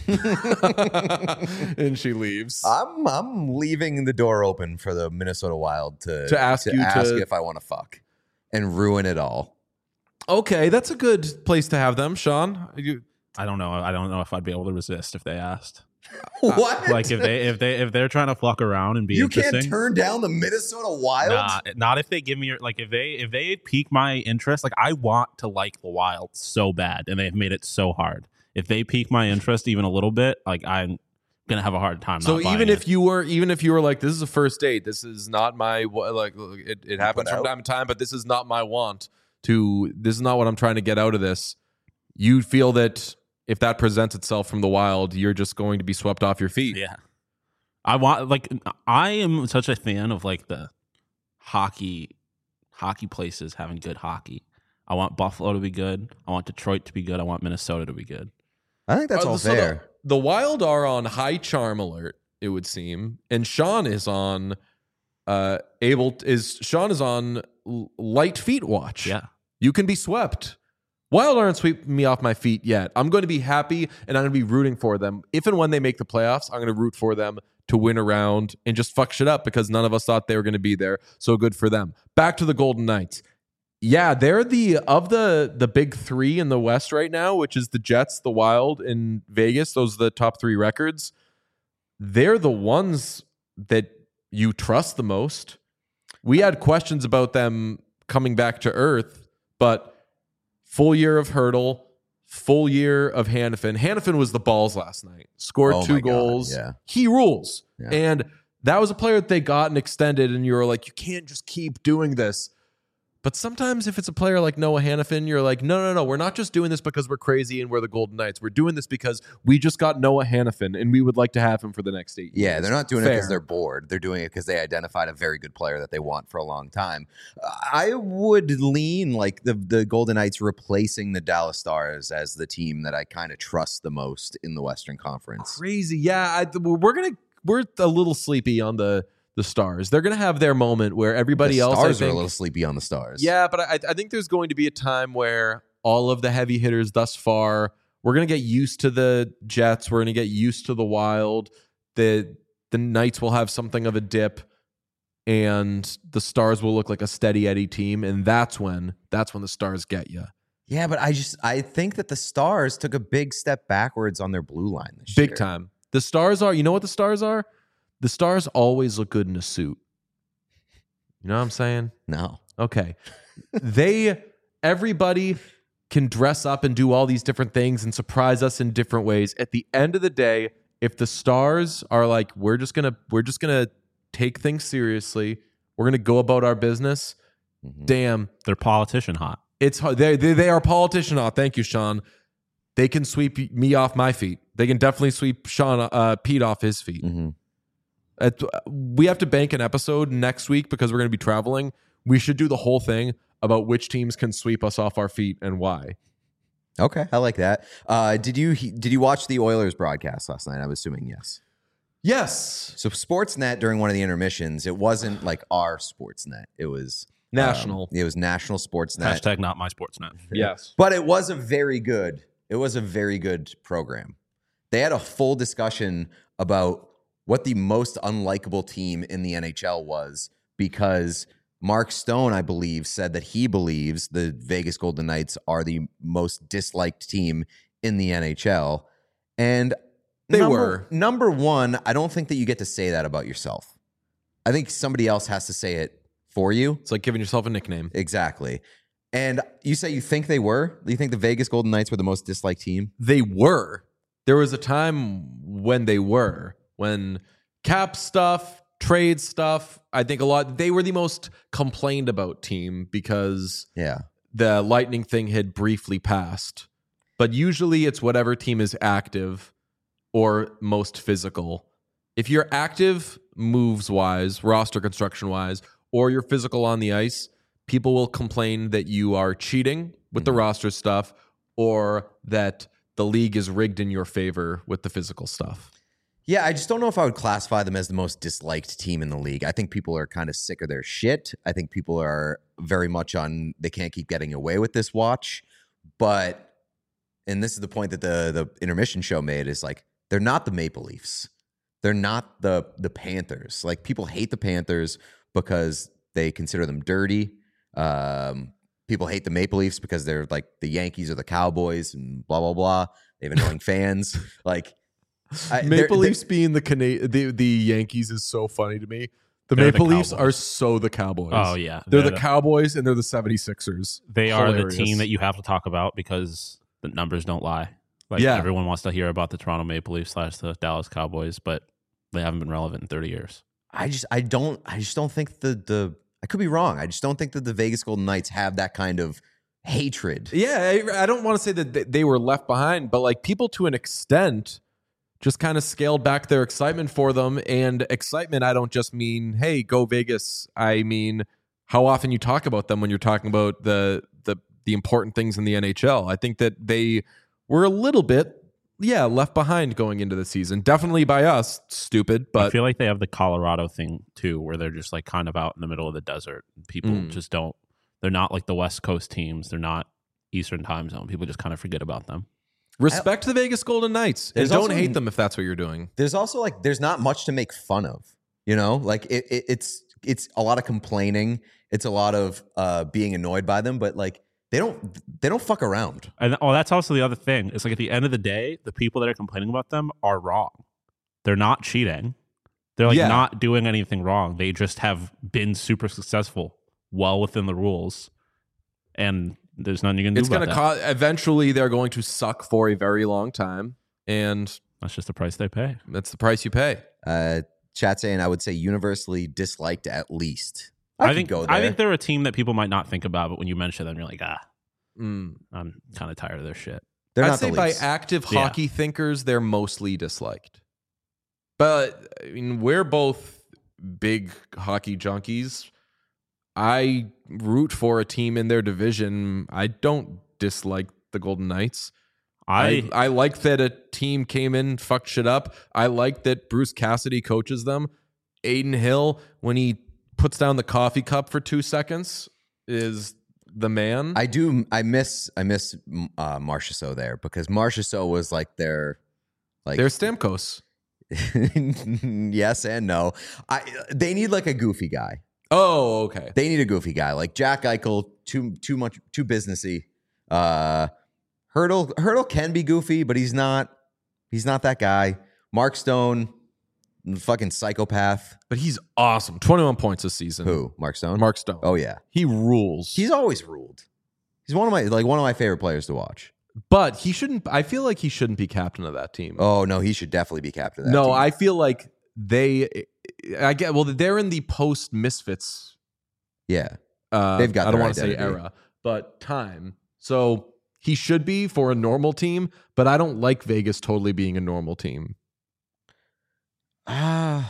And she leaves. I'm leaving the door open for the Minnesota Wild to ask if I want to fuck and ruin it all. Okay, that's a good place to have them, Sean. I don't know. I don't know if I'd be able to resist if they asked. What? Like if they're trying to fuck around and be you interesting. can't turn down the Minnesota Wild? Nah, not if they give me like if they pique my interest. Like I want to like the Wild so bad, and they've made it so hard. If they pique my interest even a little bit, like I'm gonna have a hard time. So even if you were like, this is a first date, this is not my like. It happens from time to time, but this is not my want to. This is not what I'm trying to get out of this. You feel that if that presents itself from the Wild, you're just going to be swept off your feet. Yeah, I am such a fan of like the hockey places having good hockey. I want Buffalo to be good. I want Detroit to be good. I want Minnesota to be good. I think that's all fair. The Wild are on high charm alert, it would seem, and Sean is on light feet watch. Yeah, you can be swept. Wild aren't sweeping me off my feet yet. I'm going to be happy, and I'm going to be rooting for them. If and when they make the playoffs, I'm going to root for them to win a round and just fuck shit up because none of us thought they were going to be there. So good for them. Back to the Golden Knights. Yeah, they're the big three in the West right now, which is the Jets, the Wild, and Vegas. Those are the top three records. They're the ones that you trust the most. We had questions about them coming back to earth, but full year of Hertl, full year of Hannafin. Hannafin was the balls last night. Scored 2 goals. Yeah. He rules. Yeah. And that was a player that they got and extended, and you were like, you can't just keep doing this. But sometimes if it's a player like Noah Hannafin, you're like, no. We're not just doing this because we're crazy and we're the Golden Knights. We're doing this because we just got Noah Hannafin and we would like to have him for the next 8 years. Yeah, they're not doing it because they're bored. They're doing it because they identified a very good player that they want for a long time. I would lean like the Golden Knights replacing the Dallas Stars as the team that I kind of trust the most in the Western Conference. Crazy. Yeah, we're a little sleepy on the Stars. They're going to have their moment where everybody else... The Stars are a little sleepy on the Stars. Yeah, but I think there's going to be a time where all of the heavy hitters thus far, we're going to get used to the Jets. We're going to get used to the Wild. The Knights will have something of a dip, and the Stars will look like a steady Eddie team, and that's when the Stars get you. Yeah, but I think that the Stars took a big step backwards on their blue line this year. Big time. The Stars are... You know what the Stars are? The Stars always look good in a suit. You know what I'm saying? No. Okay. Everybody can dress up and do all these different things and surprise us in different ways. At the end of the day, if the Stars are like, we're just gonna take things seriously, we're gonna go about our business. Damn, They're politician hot. it's hard. They are politician hot. Thank you, Sean. They can sweep me off my feet. They can definitely sweep Pete off his feet. We have to bank an episode next week because we're going to be traveling. We should do the whole thing about which teams can sweep us off our feet and why. Okay, I like that. Did you watch the Oilers broadcast last night? I'm assuming yes. Yes. So Sportsnet during one of the intermissions, it wasn't like our Sportsnet. It was National. It was National Sportsnet. Hashtag not my Sportsnet. Yes. But it was a very good program. They had a full discussion about what the most unlikable team in the NHL was, because Mark Stone, I believe, said that he believes the Vegas Golden Knights are the most disliked team in the NHL. And number one, I don't think that you get to say that about yourself. I think somebody else has to say it for you. It's like giving yourself a nickname. Exactly. And you say you think they were? Do you think the Vegas Golden Knights were the most disliked team? They were. There was a time when they were. When cap stuff, trade stuff, I think they were the most complained about team because the Lightning thing had briefly passed. But usually it's whatever team is active or most physical. If you're active moves-wise, roster construction-wise, or you're physical on the ice, people will complain that you are cheating with the roster stuff or that the league is rigged in your favor with the physical stuff. Yeah, I just don't know if I would classify them as the most disliked team in the league. I think people are kind of sick of their shit. I think people are very much on they can't keep getting away with this watch. But, and this is the point that the intermission show made, is like, they're not the Maple Leafs. They're not the Panthers. Like, people hate the Panthers because they consider them dirty. People hate the Maple Leafs because they're like the Yankees or the Cowboys and blah, blah, blah. They have annoying fans. Like, Maple Leafs being the Yankees is so funny to me. They're Maple the Leafs Cowboys. are so the Cowboys. Oh, yeah. They're the Cowboys and they're the 76ers. They Hilarious. are the team that you have to talk about because the numbers don't lie. Like, Yeah. everyone wants to hear about the Toronto Maple Leafs / the Dallas Cowboys, but they haven't been relevant in 30 years. I just don't think I could be wrong. I just don't think that the Vegas Golden Knights have that kind of hatred. Yeah, I don't want to say that they were left behind, but like people to an extent just kind of scaled back their excitement for them. And excitement, I don't just mean, hey, go Vegas. I mean, how often you talk about them when you're talking about the important things in the NHL. I think that they were a little bit, left behind going into the season. Definitely by us, stupid, but I feel like they have the Colorado thing too, where they're just like kind of out in the middle of the desert. People just don't, they're not like the West Coast teams. They're not Eastern time zone. People just kind of forget about them. respect the Vegas Golden Knights. And There's don't also- hate them if that's what you're doing. There's also like there's not much to make fun of. You know, like it's a lot of complaining. It's a lot of being annoyed by them, but like they don't fuck around. And that's also the other thing. It's like at the end of the day, the people that are complaining about them are wrong. They're not cheating. They're like not doing anything wrong. They just have been super successful, well within the rules, and there's nothing you can do It's about going to that. cost. Eventually, they're going to suck for a very long time, and That's just the price they pay. that's the price you pay. Chat saying I would say universally disliked at least. I could go think there. they're a team that people might not think about, but when you mention them, you're like, Mm. I'm kind of tired of their shit. They're I'd not say the by Leafs. active Yeah. hockey thinkers, they're mostly disliked. But I mean, we're both big hockey junkies. I root for a team in their division. I don't dislike the Golden Knights. I like that a team came in, fucked shit up. I like that Bruce Cassidy coaches them. Aiden Hill, when he puts down the coffee cup for 2 seconds, is the man. I miss Marchessault there because Marchessault was like their Stamkos. yes and no. They need like a goofy guy. Oh, okay. They need a goofy guy like Jack Eichel. Too businessy. Hurdle can be goofy, but he's not that guy. Mark Stone, fucking psychopath. But he's awesome. 21 points this season. Who? Mark Stone? Mark Stone. Oh yeah. He rules. He's always ruled. He's one of my favorite players to watch. But he shouldn't. I feel like he shouldn't be captain of that team. Oh no, he should definitely be captain of that team. No, I feel like they're in the post Misfits. Yeah, they've got. I don't their want to say identity. era, but time. So he should be for a normal team, but I don't like Vegas totally being a normal team. I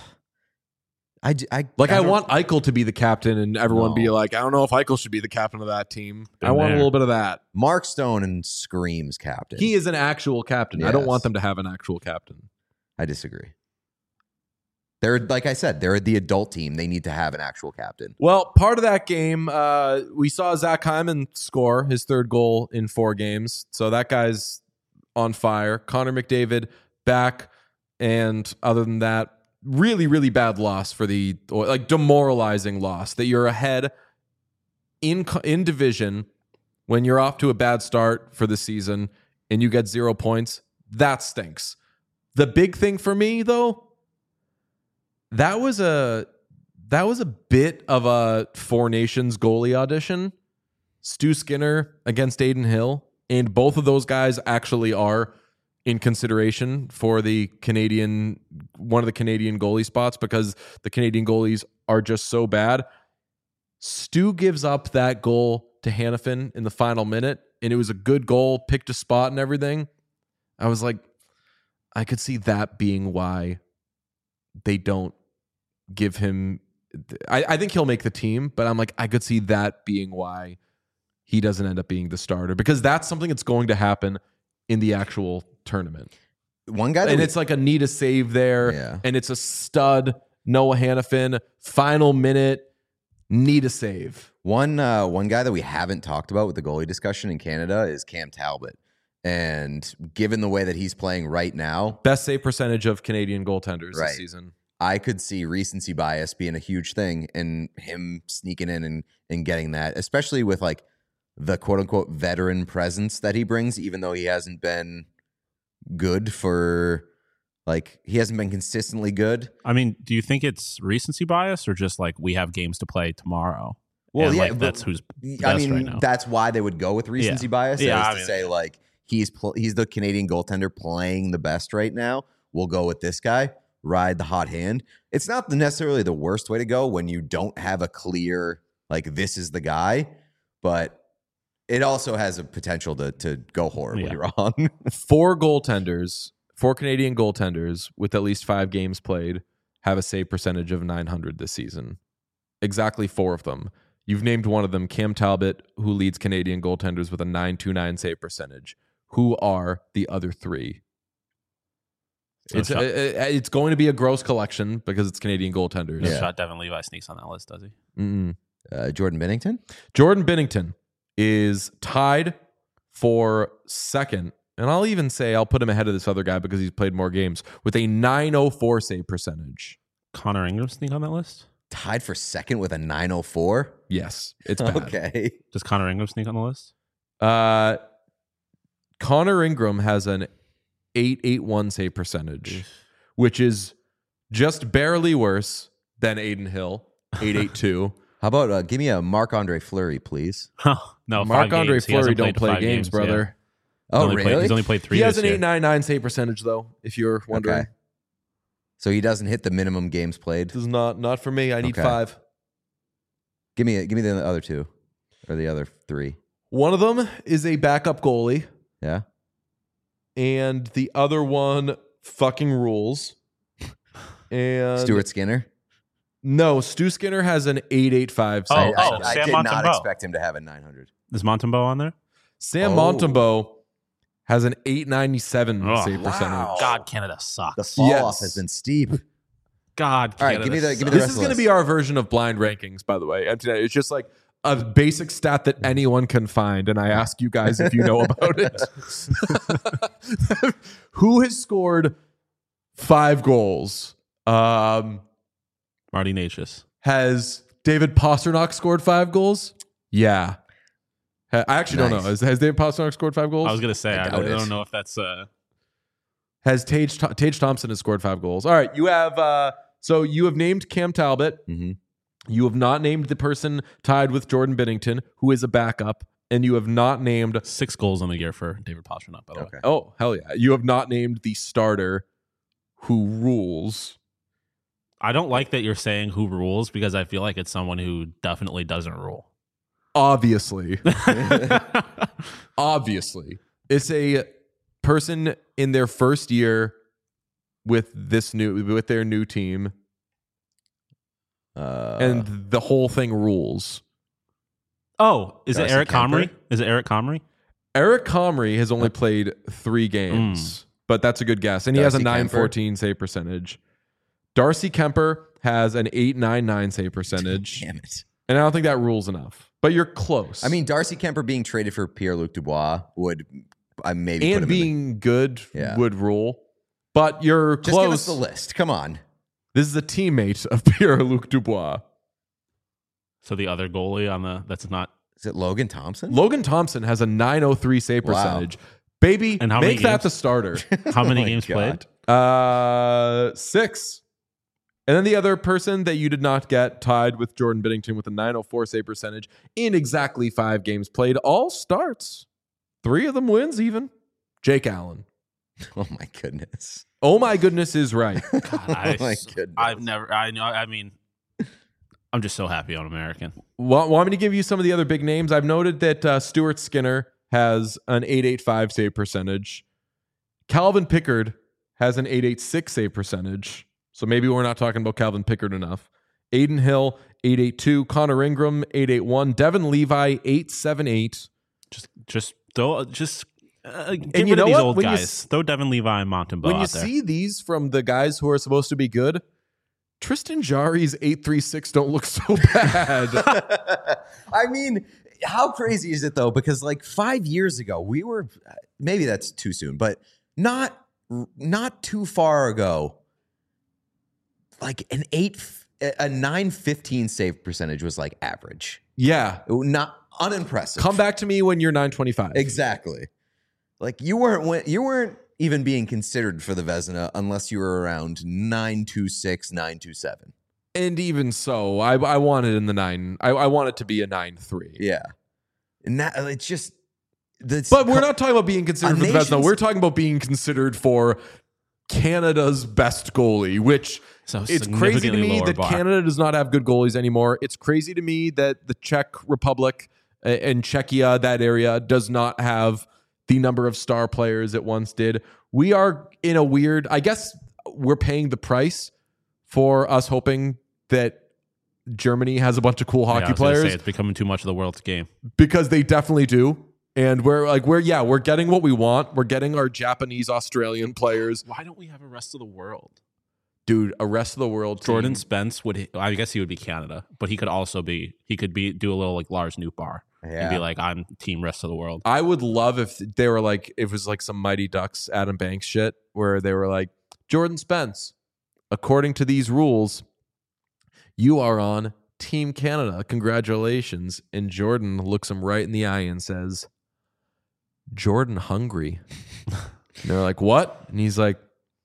want Eichel to be the captain and everyone be No. like, I don't know if Eichel should be the captain of that team. Been I want there. a little bit of that. Mark Stone and screams captain. He is an actual captain. I don't Yes. want them to have an actual captain. I disagree. They're like I said, they're the adult team. They need to have an actual captain. Well, part of that game, we saw Zach Hyman score his third goal in 4 games. So that guy's on fire. Connor McDavid back. And other than that, really, really bad loss for the demoralizing loss that you're ahead in division when you're off to a bad start for the season and you get 0 points. That stinks. The big thing for me, though, that was a bit of a Four Nations goalie audition. Stu Skinner against Aiden Hill, and both of those guys actually are in consideration for one of the Canadian goalie spots because the Canadian goalies are just so bad. Stu gives up that goal to Hannafin in the final minute, and it was a good goal, picked a spot and everything. I was like, I could see that being why they don't give him. I think he'll make the team, but I'm like, I could see that being why he doesn't end up being the starter because that's something that's going to happen in the actual tournament. One guy, And it's like a need a save there, Yeah. and it's a stud Noah Hannafin final minute need a save. one guy that we haven't talked about with the goalie discussion in Canada is Cam Talbot. And given the way that he's playing right now, Best save percentage of Canadian goaltenders Right. this season. I could see recency bias being a huge thing and him sneaking in and getting that, especially with like the quote unquote veteran presence that he brings, even though he hasn't been good for he hasn't been consistently good. I mean, do you think it's recency bias or just like we have games to play tomorrow? Well, and, yeah, like, but- that's who's best I mean, right now. that's why they would go with recency bias. Yeah, is I to mean- say like he's the Canadian goaltender playing the best right now. We'll go with this guy. Ride the hot hand. It's not necessarily the worst way to go when you don't have a clear this is the guy, but it also has a potential to go horribly wrong. 4 Canadian goaltenders with at least 5 games played have a save percentage of 900 this season. Exactly 4 of them. You've named one of them, Cam Talbot, who leads Canadian goaltenders with a 929 save percentage. Who are the other 3? It's going to be a gross collection because it's Canadian goaltenders. No Yeah. shot Devin Levi sneaks on that list, does he? Mm-mm. Jordan Binnington? Jordan Binnington is tied for second, and I'll put him ahead of this other guy because he's played more games, with a 904 save percentage. Connor Ingram sneak on that list? Tied for second with a 904? Yes, it's bad. Okay. Does Connor Ingram sneak on the list? Connor Ingram has an 881 save percentage, which is just barely worse than Aiden Hill, 882. How about give me a Marc-Andre Fleury, please? No, Marc-Andre 5 games. He hasn't Fleury don't played play 5 games, yeah. brother. Oh, Only really? He's only played 3 He has this an year. 899 save percentage, though, if you're wondering. Okay. So he doesn't hit the minimum games played. This is not for me. I need Okay. 5. Give me the other 2 or the other 3. One of them is a backup goalie, Yeah. and the other one fucking rules. And Stuart Skinner. No, Stu Skinner has an 885 Oh, save. I Sam did not Montembeault. expect him to have a 900. Is Montembeault on there? Sam Oh. Montembeault has an 897 Oh, save wow. percentage. God, Canada sucks. The fall Yes. off has been steep. God, All right, Canada give me the sucks. rest This of is the going to list. be our version of blind rankings, by the way. It's just like a basic stat that anyone can find, and I ask you guys if you know about it. Who has scored 5 goals? Marty Natchez. Has David Pasternak scored 5 goals? Yeah. I actually don't know. Nice. Has David Pasternak scored 5 goals? I was gonna say I I doubt it. don't know if that's Has Tage Thompson has scored 5 goals. All right, you have so you have named Cam Talbot. Mhm. You have not named the person tied with Jordan Binnington, who is a backup and you have not named. 6 goals on the year for David Pastrnak, by the way. Okay. Oh, hell yeah. You have not named the starter who rules. I don't like that you're saying who rules because I feel like it's someone who definitely doesn't rule. Obviously. Obviously. It's a person in their first year with their new team. And the whole thing rules. Oh, is Darcy it Eric Kemper? Comrie? Is it Eric Comrie? Eric Comrie has only played 3 games, but that's a good guess. And he has a Darcy Kemper? .914 save percentage. Darcy Kemper has an .899 save percentage. Damn it. And I don't think that rules enough. But you're close. I mean, Darcy Kemper being traded for Pierre-Luc Dubois would maybe put and him being good Yeah. would rule. But you're Just close. give us the list. Come on. This is a teammate of Pierre-Luc Dubois. So the other goalie on that's not. Is it Logan Thompson? Logan Thompson has a .903 save Wow. percentage. Baby, And how many make that games? the starter. How many Oh my games God. played? 6. And then the other person that you did not get tied with Jordan Binnington with a .904 save percentage in exactly 5 games played, all starts. 3 of them wins even. Jake Allen. Oh my goodness. Oh my goodness is right. God, Oh my goodness. I've never. I mean, I'm just so happy I'm American. Want me to give you some of the other big names? I've noted that Stuart Skinner has an .885 save percentage. Calvin Pickard has an .886 save percentage. So maybe we're not talking about Calvin Pickard enough. Aiden Hill, .882. Connor Ingram, .881. Devin Levi, .878. Just throw. Just get you rid know of these what? old When you guys. Throw Devin Levi and Montembeau When you out there. see these from the guys who are supposed to be good, Tristan Jarry's .836 don't look so bad. I mean, how crazy is it though? Because like 5 years ago, we were maybe that's too soon, but not too far ago. Like a 915 save percentage was like average. Yeah. Not unimpressive. Come back to me when you're 925. Exactly. Like you weren't even being considered for the Vezina unless you were around 926, 927. And even so, I want it in the 9. I want it to be a 9.3. Yeah. And that it's just But we're not talking about being considered for the Vezina. nation's- We're talking about being considered for Canada's best goalie, which So it's crazy to significantly me lower that bar. Canada does not have good goalies anymore. It's crazy to me that the Czech Republic and Czechia, that area, does not have the number of star players it once did. We are in a weird, I guess we're paying the price for us hoping that Germany has a bunch of cool Yeah, I hockey was gonna say players, it's becoming too much of the world's game. because they definitely do. And we're getting what we want. We're getting our Japanese, Australian players. Why don't we have a rest of the world? Dude, a rest of the world team. Jordan Spence I guess he would be Canada, but he could also do a little like Lars Nootbaar and be like, I'm team rest of the world. I would love if they were like, if it was like some Mighty Ducks, Adam Banks shit, where they were like, Jordan Spence, according to these rules, you are on Team Canada. Congratulations. And Jordan looks him right in the eye and says, Jordan hungry. And they're like, what? And he's like,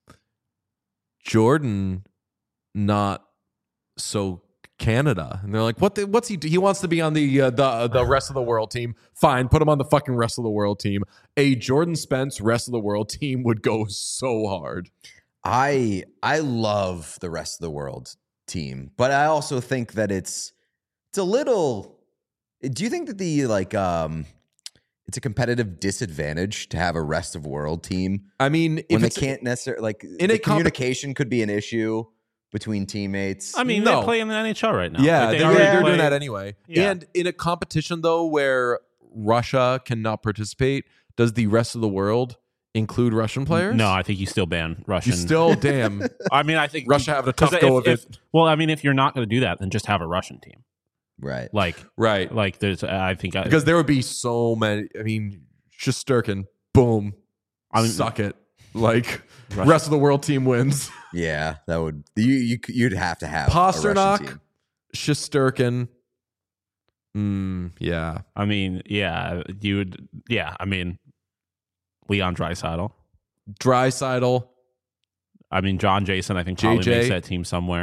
Jordan not so Canada. And they're like, what's he do? He wants to be on the rest of the world team. Fine, put him on the fucking rest of the world team. A Jordan Spence rest of the world team would go so hard. I love the rest of the world team, but I also think that it's a little. Do you think that it's a competitive disadvantage to have a rest of world team I mean, when they it's can't necessarily like in the a communication could be an issue between teammates? I mean, No. they play in the NHL right now. yeah, Like, they're already doing play- that anyway. Yeah. And in a competition though, where Russia cannot participate, does the rest of the world include Russian players? No, I think you still ban Russian. You still, damn, I mean, I think Russia having a tough 'cause go of if- it. Well, I mean, if you're not going to do that, then just have a Russian team. Right. Like Right. there's, I think, Because there would be so many. I mean, Shesterkin, boom, I mean, suck it. Like, Russia- rest of the world team wins. Yeah, that would you'd have to have a Russian Pasternak, team. Shesterkin. Yeah. I mean, yeah, you would. Yeah, I mean, Leon Draisaitl. Draisaitl. I mean, John Jason. I think probably JJ. makes that team somewhere.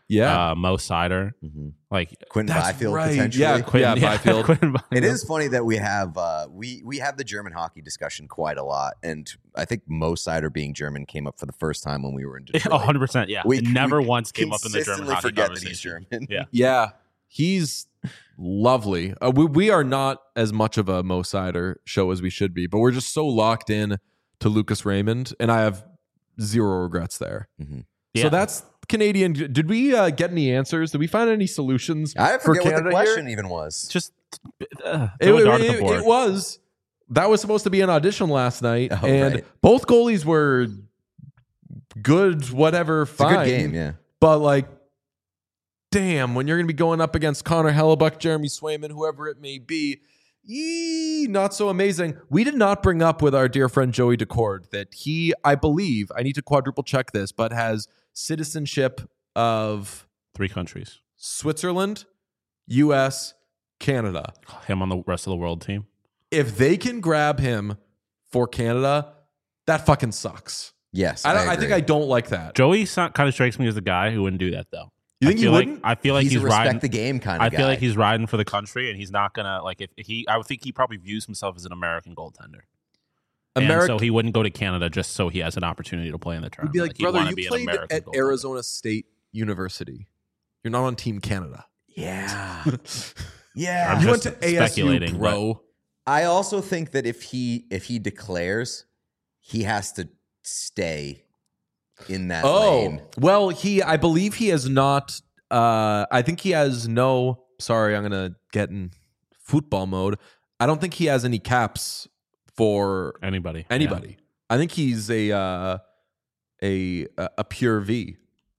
Mo Sider, like Quentin That's Byfield right. potentially. Yeah, Byfield. Quentin Byfield. It is funny that we have we have the German hockey discussion quite a lot, and I think Mo Sider being German came up for the first time when we were in Detroit. 100%. Yeah, We it never we once came up in the German consistently hockey forget that he's conversation. German. Yeah. Yeah, he's lovely. We are not as much of a Mo Sider show as we should be, but we're just so locked in to Lucas Raymond, and I have zero regrets there. Yeah. So that's Canadian. Did we get any answers? Did we find any solutions I for forget what Canada the question here? even was. just It, throw a dart at the it- board. it was. That was supposed to be an audition last night, Oh, and right. both goalies were good, whatever, It's a fine. good game, yeah. But like, damn, when you're going to be going up against Connor Hellebuck, Jeremy Swayman, whoever it may be, not so amazing. We did not bring up with our dear friend Joey Decord that he, I believe, I need to quadruple check this, but has citizenship of 3 countries. Switzerland, U.S., Canada. Him on the rest of the world team. If they can grab him for Canada, that fucking sucks. Yes, I think agree. I don't like that. Joey kind of strikes me as the guy who wouldn't do that though. You think I he feel wouldn't? I feel like he's he's a respect riding the game kind of I guy. feel like he's riding for the country, and he's not gonna like if he. I would think he probably views himself as an American goaltender. And so he wouldn't go to Canada just so he has an opportunity to play in the He'd tournament. be like, he'd brother, wanna you be an played American at goaltender." Arizona State University. You're not on Team Canada. Yeah. I'm Yeah. You went just to ASU, speculating, bro. I also think that if he declares, he has to stay in that lane. well, I believe he has not. I think he has no. Sorry, I'm gonna get in football mode. I don't think he has any caps for Anybody. anybody. I think he's a pure V.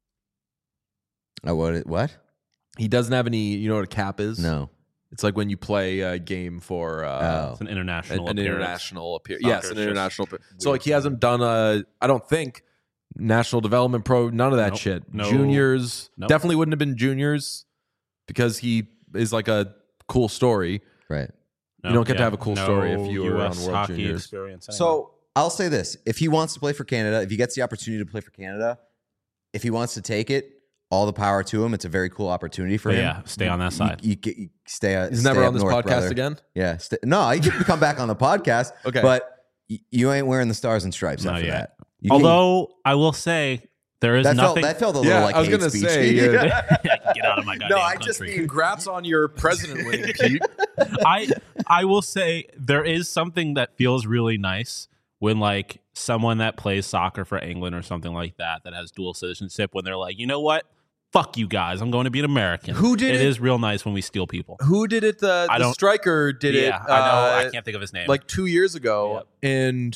What? He doesn't have any. You know what a cap is? No. It's like when you play a game for Oh. It's an international an appearance. international appearance. Soccer Yes, an is just international appearance. So weird. like he hasn't done I don't think national development pro, none of that Nope. shit. No. Juniors Nope. definitely wouldn't have been juniors because he is like a cool story. Right. You don't get to have a cool story if you were on US World hockey Juniors. experience anyway. So I'll say this: if he wants to play for Canada, if he gets the opportunity to play for Canada, if he wants to take it, all the power to him. It's a very cool opportunity for But him. yeah, stay on that side. You stay. He's stay never up on this north, podcast brother. again. Yeah. No, you can come back on the podcast. Okay. But you ain't wearing the stars and stripes Not after yet. that. You can- Although I will say there is that nothing. felt a little Yeah, like I was hate gonna speech. say, Get out of my goddamn No, I just country. mean- Congrats on your president win, Pete. I will say there is something that feels really nice when like someone that plays soccer for England or something like that has dual citizenship, when they're like, you know what? Fuck you guys. I'm going to be an American. Who did it? It is real nice when we steal people. Who did it? I The don't- striker did it. Yeah, I know. I can't think of his name. Like 2 years ago, and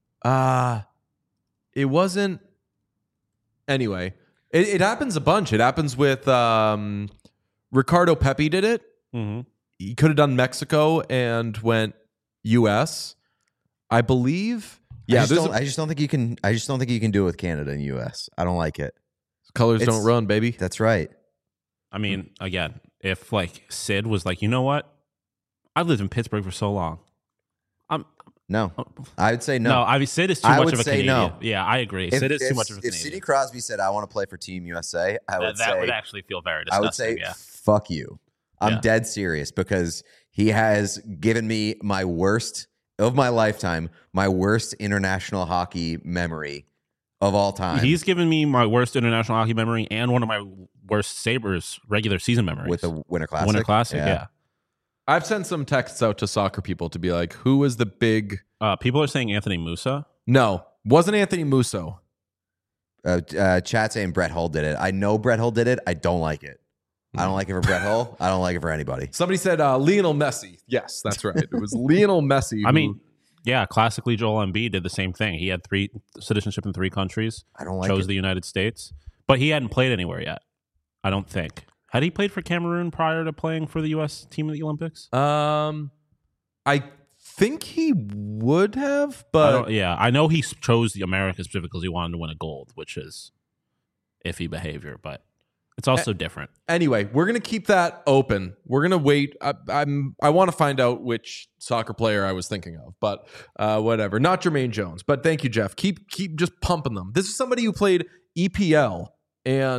it wasn't. Anyway, it happens a bunch. It happens with Ricardo Pepi did it. Mhm. He could have done Mexico and went U.S. I believe. Yeah, I there's just don't think you can. I just don't think you can do it with Canada and U.S. I don't like it. colors it's- don't run, baby. That's right. I mean, again, if like Sid was like, you know what? I've lived in Pittsburgh for so long. No, I would say No, no. I mean, Sid is too I much would of a say Canadian. no. Yeah, I agree. Sid is too much of a If Canadian. Sidney Crosby said, "I want to play for Team USA," I would that say, would actually feel very I disgusting. would say, yeah. "Fuck you." I'm Yeah. dead serious because he has given me my worst of my lifetime, my worst international hockey memory of all time. He's given me my worst international hockey memory and one of my worst Sabres regular season memories. with the Winter Classic. Winter Classic, yeah. I've sent some texts out to soccer people to be like, who was the big? People are saying Anthony Musa. No, wasn't Anthony Musso. Chat saying Brett Hull did it. I know Brett Hull did it. I don't like it. I don't like it for Brett Hull. I don't like it for anybody. Somebody said Lionel Messi. Yes, that's right. It was Lionel Messi. I who- mean, yeah, classically Joel Embiid did the same thing. He had citizenship in 3 countries, I don't like chose it. the United States, but he hadn't played anywhere yet. I don't think. Had he played for Cameroon prior to playing for the U.S. team at the Olympics? I think he would have, I but don't, yeah, I know he chose the Americas specifically because he wanted to win a gold, which is iffy behavior, but it's also different. anyway, we're gonna keep that open. We're gonna wait. I want to find out which soccer player I was thinking of, but whatever. Not Jermaine Jones, but thank you, Jeff. Keep just pumping them. This is somebody who played EPL and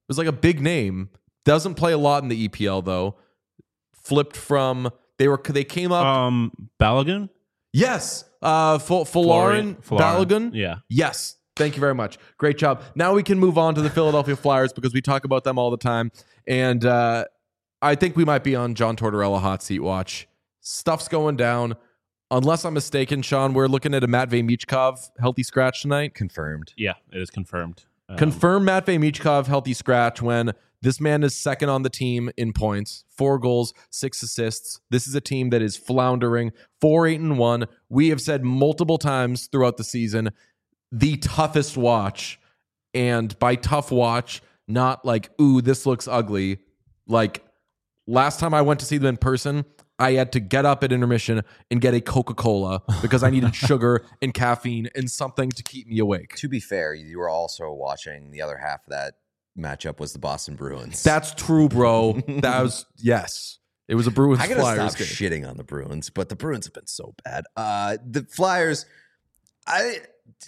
was like a big name. Doesn't play a lot in the EPL though. Flipped from they came up. Balogun? Yes, Folarin Balogun. Yeah. Yes. Thank you very much. Great job. Now we can move on to the Philadelphia Flyers because we talk about them all the time, and I think we might be on John Tortorella hot seat watch. Stuff's going down. Unless I'm mistaken, Sean, we're looking at a Matvei Michkov healthy scratch tonight. Confirmed. Yeah, it is confirmed. Confirm Matvei Michkov healthy scratch when this man is second on the team in points, 4 goals, 6 assists. This is a team that is floundering, 4-8-1. We have said multiple times throughout the season, the toughest watch. And by tough watch, not like, ooh, this looks ugly. Like last time I went to see them in person, I had to get up at intermission and get a Coca-Cola because I needed sugar and caffeine and something to keep me awake. To be fair, you were also watching the other half of that matchup was the Boston Bruins. That's true, bro. That was, yes. It was a Bruins I gotta Flyers stop game. shitting on the Bruins, but the Bruins have been so bad. The Flyers, I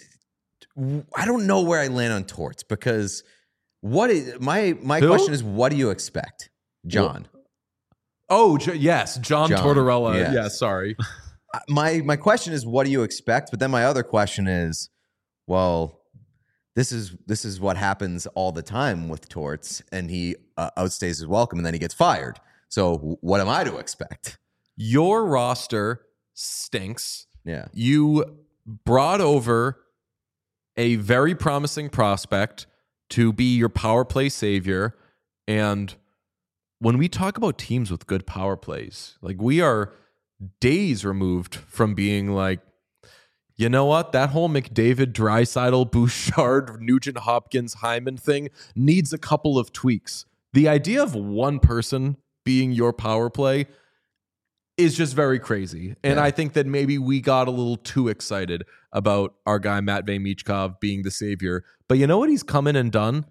don't know where I land on Torts because what is my question is, what do you expect, John? Oh, yes. John Tortorella. yes. Yeah, sorry. My question is, what do you expect? But then my other question is, well, this is what happens all the time with Torts, and he outstays his welcome, and then he gets fired. So what am I to expect? Your roster stinks. Yeah. You brought over a very promising prospect to be your power play savior. And when we talk about teams with good power plays, like we are days removed from being like, you know what? That whole McDavid, Draisaitl, Bouchard, Nugent Hopkins, Hyman thing needs a couple of tweaks. The idea of one person being your power play is just very crazy. And I think that maybe we got a little too excited about our guy Matvei Michkov being the savior. But you know what he's come in and done?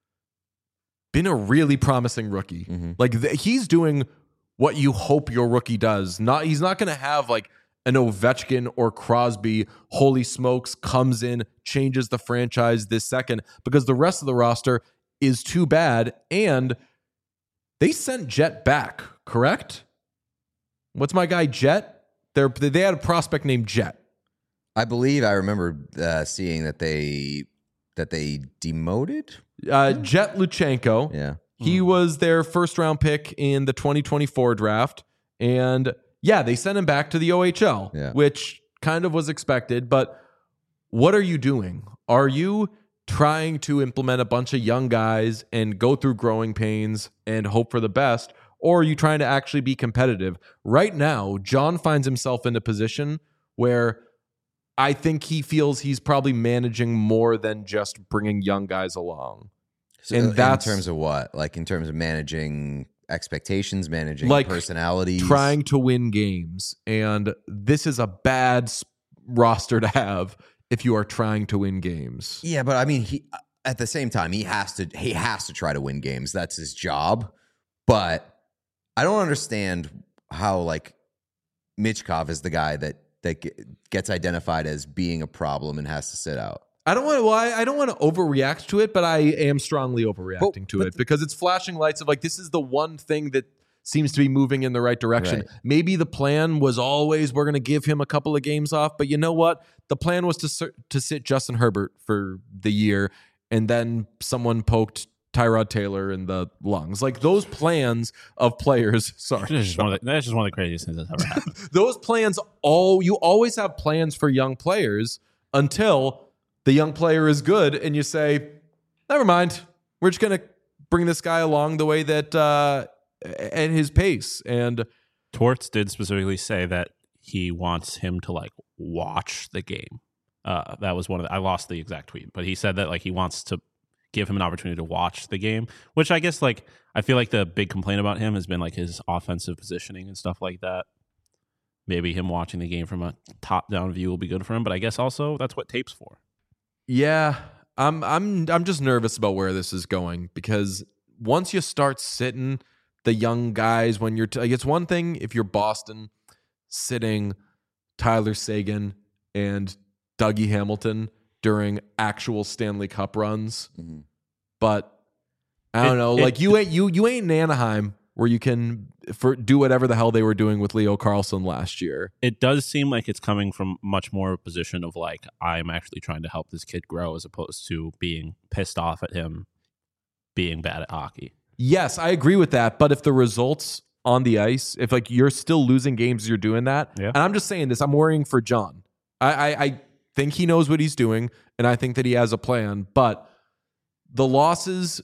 Been a really promising rookie. Mm-hmm. Like he's doing what you hope your rookie does. He's not going to have like an Ovechkin or Crosby, holy smokes, comes in, changes the franchise this second, because the rest of the roster is too bad. And they sent Jet back, correct? What's my guy Jet? They had a prospect named Jet. I believe I remember seeing that they demoted Jet Luchenko. Yeah. He was their first round pick in the 2024 draft. And yeah, they sent him back to the OHL, which kind of was expected. But what are you doing? Are you trying to implement a bunch of young guys and go through growing pains and hope for the best? Or are you trying to actually be competitive? Right now, John finds himself in a position where I think he feels he's probably managing more than just bringing young guys along. So and that's in terms of what? Like in terms of managing expectations, managing like personalities, trying to win games. And this is a bad roster to have if you are trying to win games. Yeah, but I mean, he at the same time he has to try to win games. That's his job. But I don't understand how like Michkov is the guy that gets identified as being a problem and has to sit out. I don't want to overreact to it, but I am strongly overreacting to it because it's flashing lights of like, this is the one thing that seems to be moving in the right direction. Right. Maybe the plan was always we're going to give him a couple of games off, but you know what? The plan was to sit Justin Herbert for the year, and then someone poked Tyrod Taylor in the lungs. Like those plans of players. Sorry, that's just one of the craziest things that's ever happened. Those plans, you always have plans for young players until the young player is good, and you say, never mind. We're just going to bring this guy along the way that at his pace. And Torts did specifically say that he wants him to like watch the game. That was I lost the exact tweet, but he said that like he wants to give him an opportunity to watch the game, which I guess like I feel like the big complaint about him has been like his offensive positioning and stuff like that. Maybe him watching the game from a top-down view will be good for him, but I guess also that's what tape's for. Yeah, I'm just nervous about where this is going because once you start sitting the young guys, when you're like, it's one thing if you're Boston sitting Tyler Seguin and Dougie Hamilton during actual Stanley Cup runs, but I don't know. Like you ain't in Anaheim where you can do whatever the hell they were doing with Leo Carlsson last year. It does seem like it's coming from much more of a position of like, I'm actually trying to help this kid grow as opposed to being pissed off at him being bad at hockey. Yes, I agree with that. But if the results on the ice, if like you're still losing games, you're doing that. Yeah. And I'm just saying this, I'm worrying for John. I think he knows what he's doing, and I think that he has a plan. But the losses,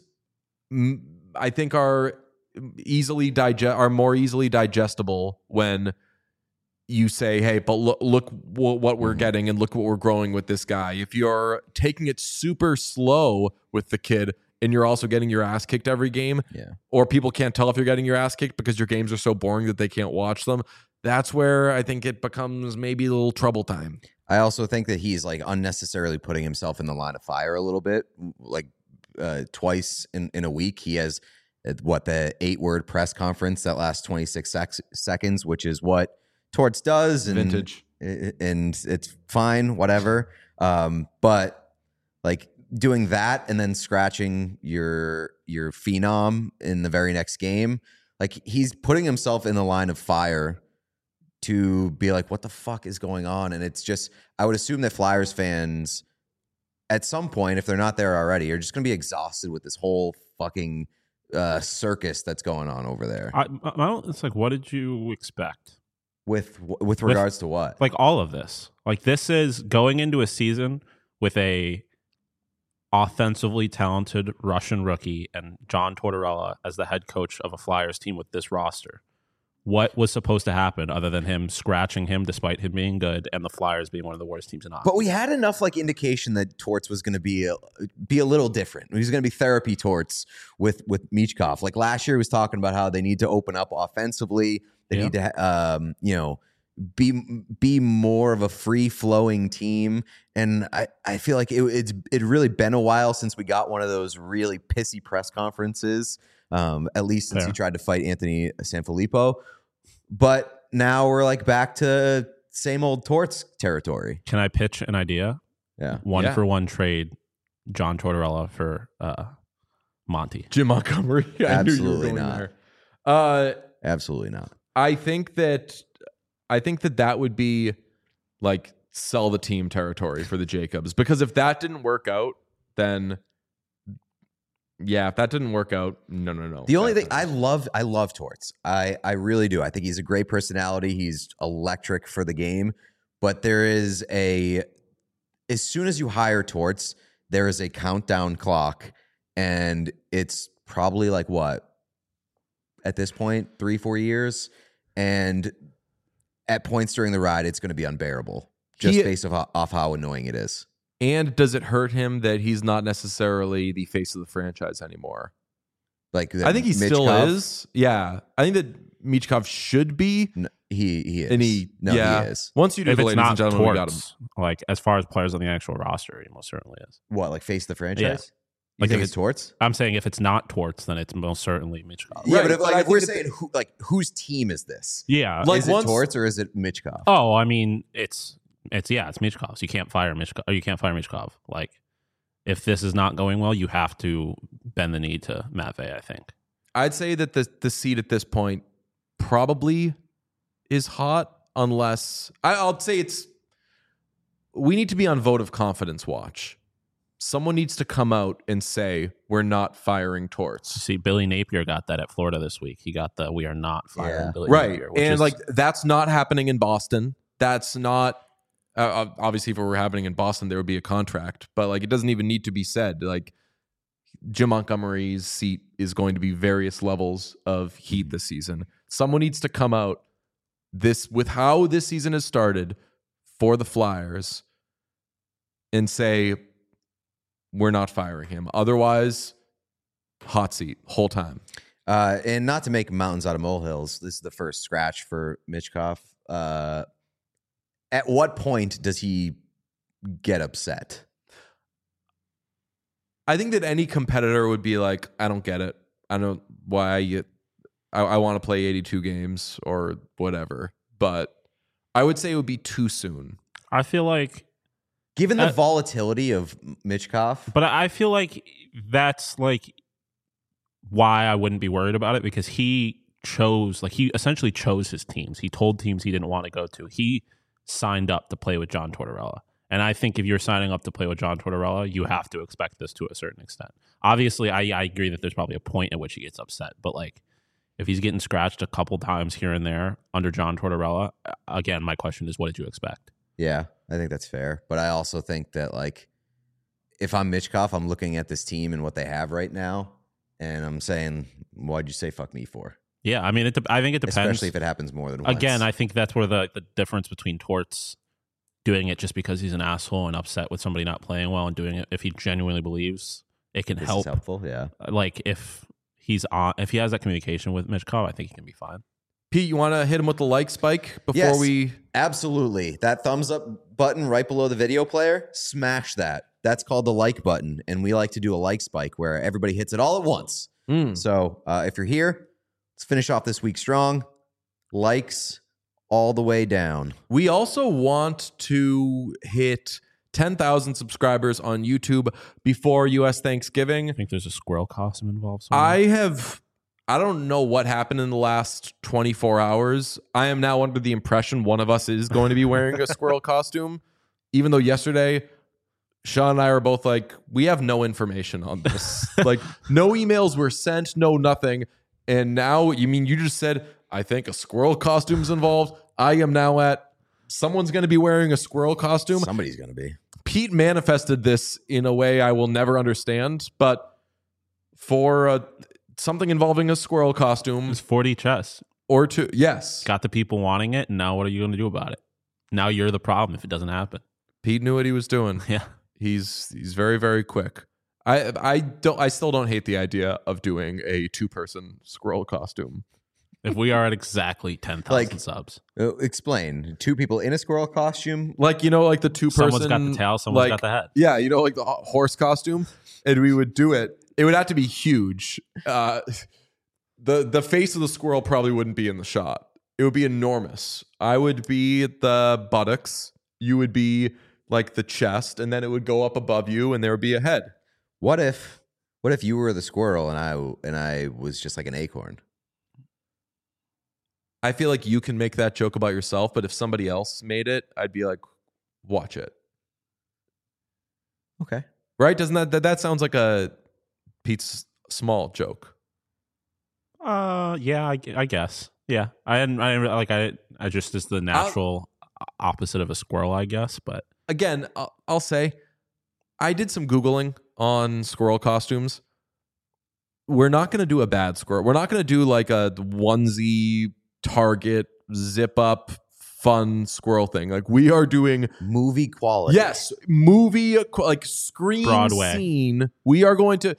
I think, are more easily digestible when you say, hey, but look what we're getting and look what we're growing with this guy. If you're taking it super slow with the kid and you're also getting your ass kicked every game, or people can't tell if you're getting your ass kicked because your games are so boring that they can't watch them, that's where I think it becomes maybe a little trouble time. I also think that he's like unnecessarily putting himself in the line of fire a little bit. Like twice in a week, he has the 8-word press conference that lasts 26 seconds, which is what Torts does, and Vintage, and it's fine, whatever. But like doing that and then scratching your phenom in the very next game, like he's putting himself in the line of fire to be like, what the fuck is going on? And it's just, I would assume that Flyers fans at some point, if they're not there already, are just going to be exhausted with this whole fucking circus that's going on over there. It's like, what did you expect? With regards to what? Like all of this. Like this is going into a season with a offensively talented Russian rookie and John Tortorella as the head coach of a Flyers team with this roster. What was supposed to happen other than him scratching him despite him being good and the Flyers being one of the worst teams in hockey? But we had enough like indication that Torts was going to be a little different. He was going to be therapy Torts with Michkov. Like last year, he was talking about how they need to open up offensively. They need to be more of a free flowing team. And I feel like it really been a while since we got one of those really pissy press conferences. At least since he tried to fight Anthony Sanfilippo. But now we're like back to same old Torts territory. Can I pitch an idea? Yeah. 1-for-1 trade John Tortorella for Monty. Jim Montgomery. Absolutely not. Absolutely not. I think that would be like sell the team territory for the Jacobs, because if that didn't work out, then if that didn't work out, no. The only thing I love Torts. I really do. I think he's a great personality. He's electric for the game. But there is as soon as you hire Torts, there is a countdown clock, and it's probably like what? At this point, 3-4 years. And at points during the ride, it's going to be unbearable. Just based off how annoying it is. And does it hurt him that he's not necessarily the face of the franchise anymore? Like I think he still is. Yeah, I think that Michkov should be. No, he is. And he is. Once you do if the it's ladies not and gentlemen, we got him. Torts, like as far as players on the actual roster, he most certainly is. What, like face the franchise? Yeah. You think it's Torts? I'm saying if it's not Torts, then it's most certainly Michkov. Yeah, Right, but if we're saying whose team is this? Yeah, Like is it Torts or is it Michkov? Oh, I mean, it's Michkov. So you can't fire Michkov. Or you can't fire Michkov. Like, if this is not going well, you have to bend the knee to Matvey, I think. I'd say that the seat at this point probably is hot, unless I'll say we need to be on vote of confidence watch. Someone needs to come out and say we're not firing Torts. See, Billy Napier got that at Florida this week. He got the we are not firing Billy Napier. And like that's not happening in Boston. That's not. Obviously, if it were happening in Boston, there would be a contract. But like, it doesn't even need to be said. Like, Jim Montgomery's seat is going to be various levels of heat this season. Someone needs to come out with how this season has started for the Flyers and say we're not firing him. Otherwise, hot seat whole time. And not to make mountains out of molehills, this is the first scratch for Michkov. At what point does he get upset? I think that any competitor would be like, I don't get it. I don't know why I want to play 82 games or whatever. But I would say it would be too soon. I feel like, given the volatility of Michkov, but I feel like that's like why I wouldn't be worried about it, because he essentially chose his teams. He told teams he didn't want to go to. He signed up to play with John Tortorella. And I think if you're signing up to play with John Tortorella, you have to expect this to a certain extent. Obviously, I agree that there's probably a point at which he gets upset. But like, if he's getting scratched a couple times here and there under John Tortorella, again, my question is, what did you expect? Yeah, I think that's fair. But I also think that, like, if I'm Michkov, I'm looking at this team and what they have right now, and I'm saying, why'd you say fuck me for? Yeah, I mean, I think it depends. Especially if it happens more than once. Again, I think that's where the difference between Torts doing it just because he's an asshole and upset with somebody not playing well, and doing it if he genuinely believes it can this help. is helpful, yeah. Like if he has that communication with Michkov, I think he can be fine. Pete, you want to hit him with the like spike before we? Absolutely. That thumbs up button right below the video player, smash that. That's called the like button, and we like to do a like spike where everybody hits it all at once. So if you're here, let's finish off this week strong. Likes all the way down. We also want to hit 10,000 subscribers on YouTube before U.S. Thanksgiving. I think there's a squirrel costume involved somewhere. I don't know what happened in the last 24 hours. I am now under the impression one of us is going to be wearing a squirrel costume, even though yesterday Sean and I were both like, we have no information on this. Like, no emails were sent, no nothing. And now, you just said, I think a squirrel costume's involved. I am now at, someone's going to be wearing a squirrel costume. Somebody's going to be. Pete manifested this in a way I will never understand, but for something involving a squirrel costume. It's 40 chess. Or two, yes. Got the people wanting it, and now what are you going to do about it? Now you're the problem if it doesn't happen. Pete knew what he was doing. Yeah. He's very, very quick. I still don't hate the idea of doing a 2-person squirrel costume. If we are at exactly 10,000 subs. Explain. 2 people in a squirrel costume? Like, like the 2-person. Someone's got the tail, someone's got the head. Yeah, like the horse costume. And we would do it. It would have to be huge. The face of the squirrel probably wouldn't be in the shot. It would be enormous. I would be the buttocks. You would be like the chest, and then it would go up above you, and there would be a head. What if you were the squirrel and I was just like an acorn? I feel like you can make that joke about yourself, but if somebody else made it, I'd be like, watch it. Okay. Right? Doesn't that sounds like a Pete's Small joke? Yeah, I guess. Yeah. I just is the natural opposite of a squirrel, I guess, but again, I'll say I did some Googling on squirrel costumes. We're not going to do a bad squirrel. We're not going to do like a onesie Target zip up fun squirrel thing. Like, we are doing movie quality. Yes, movie like screen Broadway scene. We are going to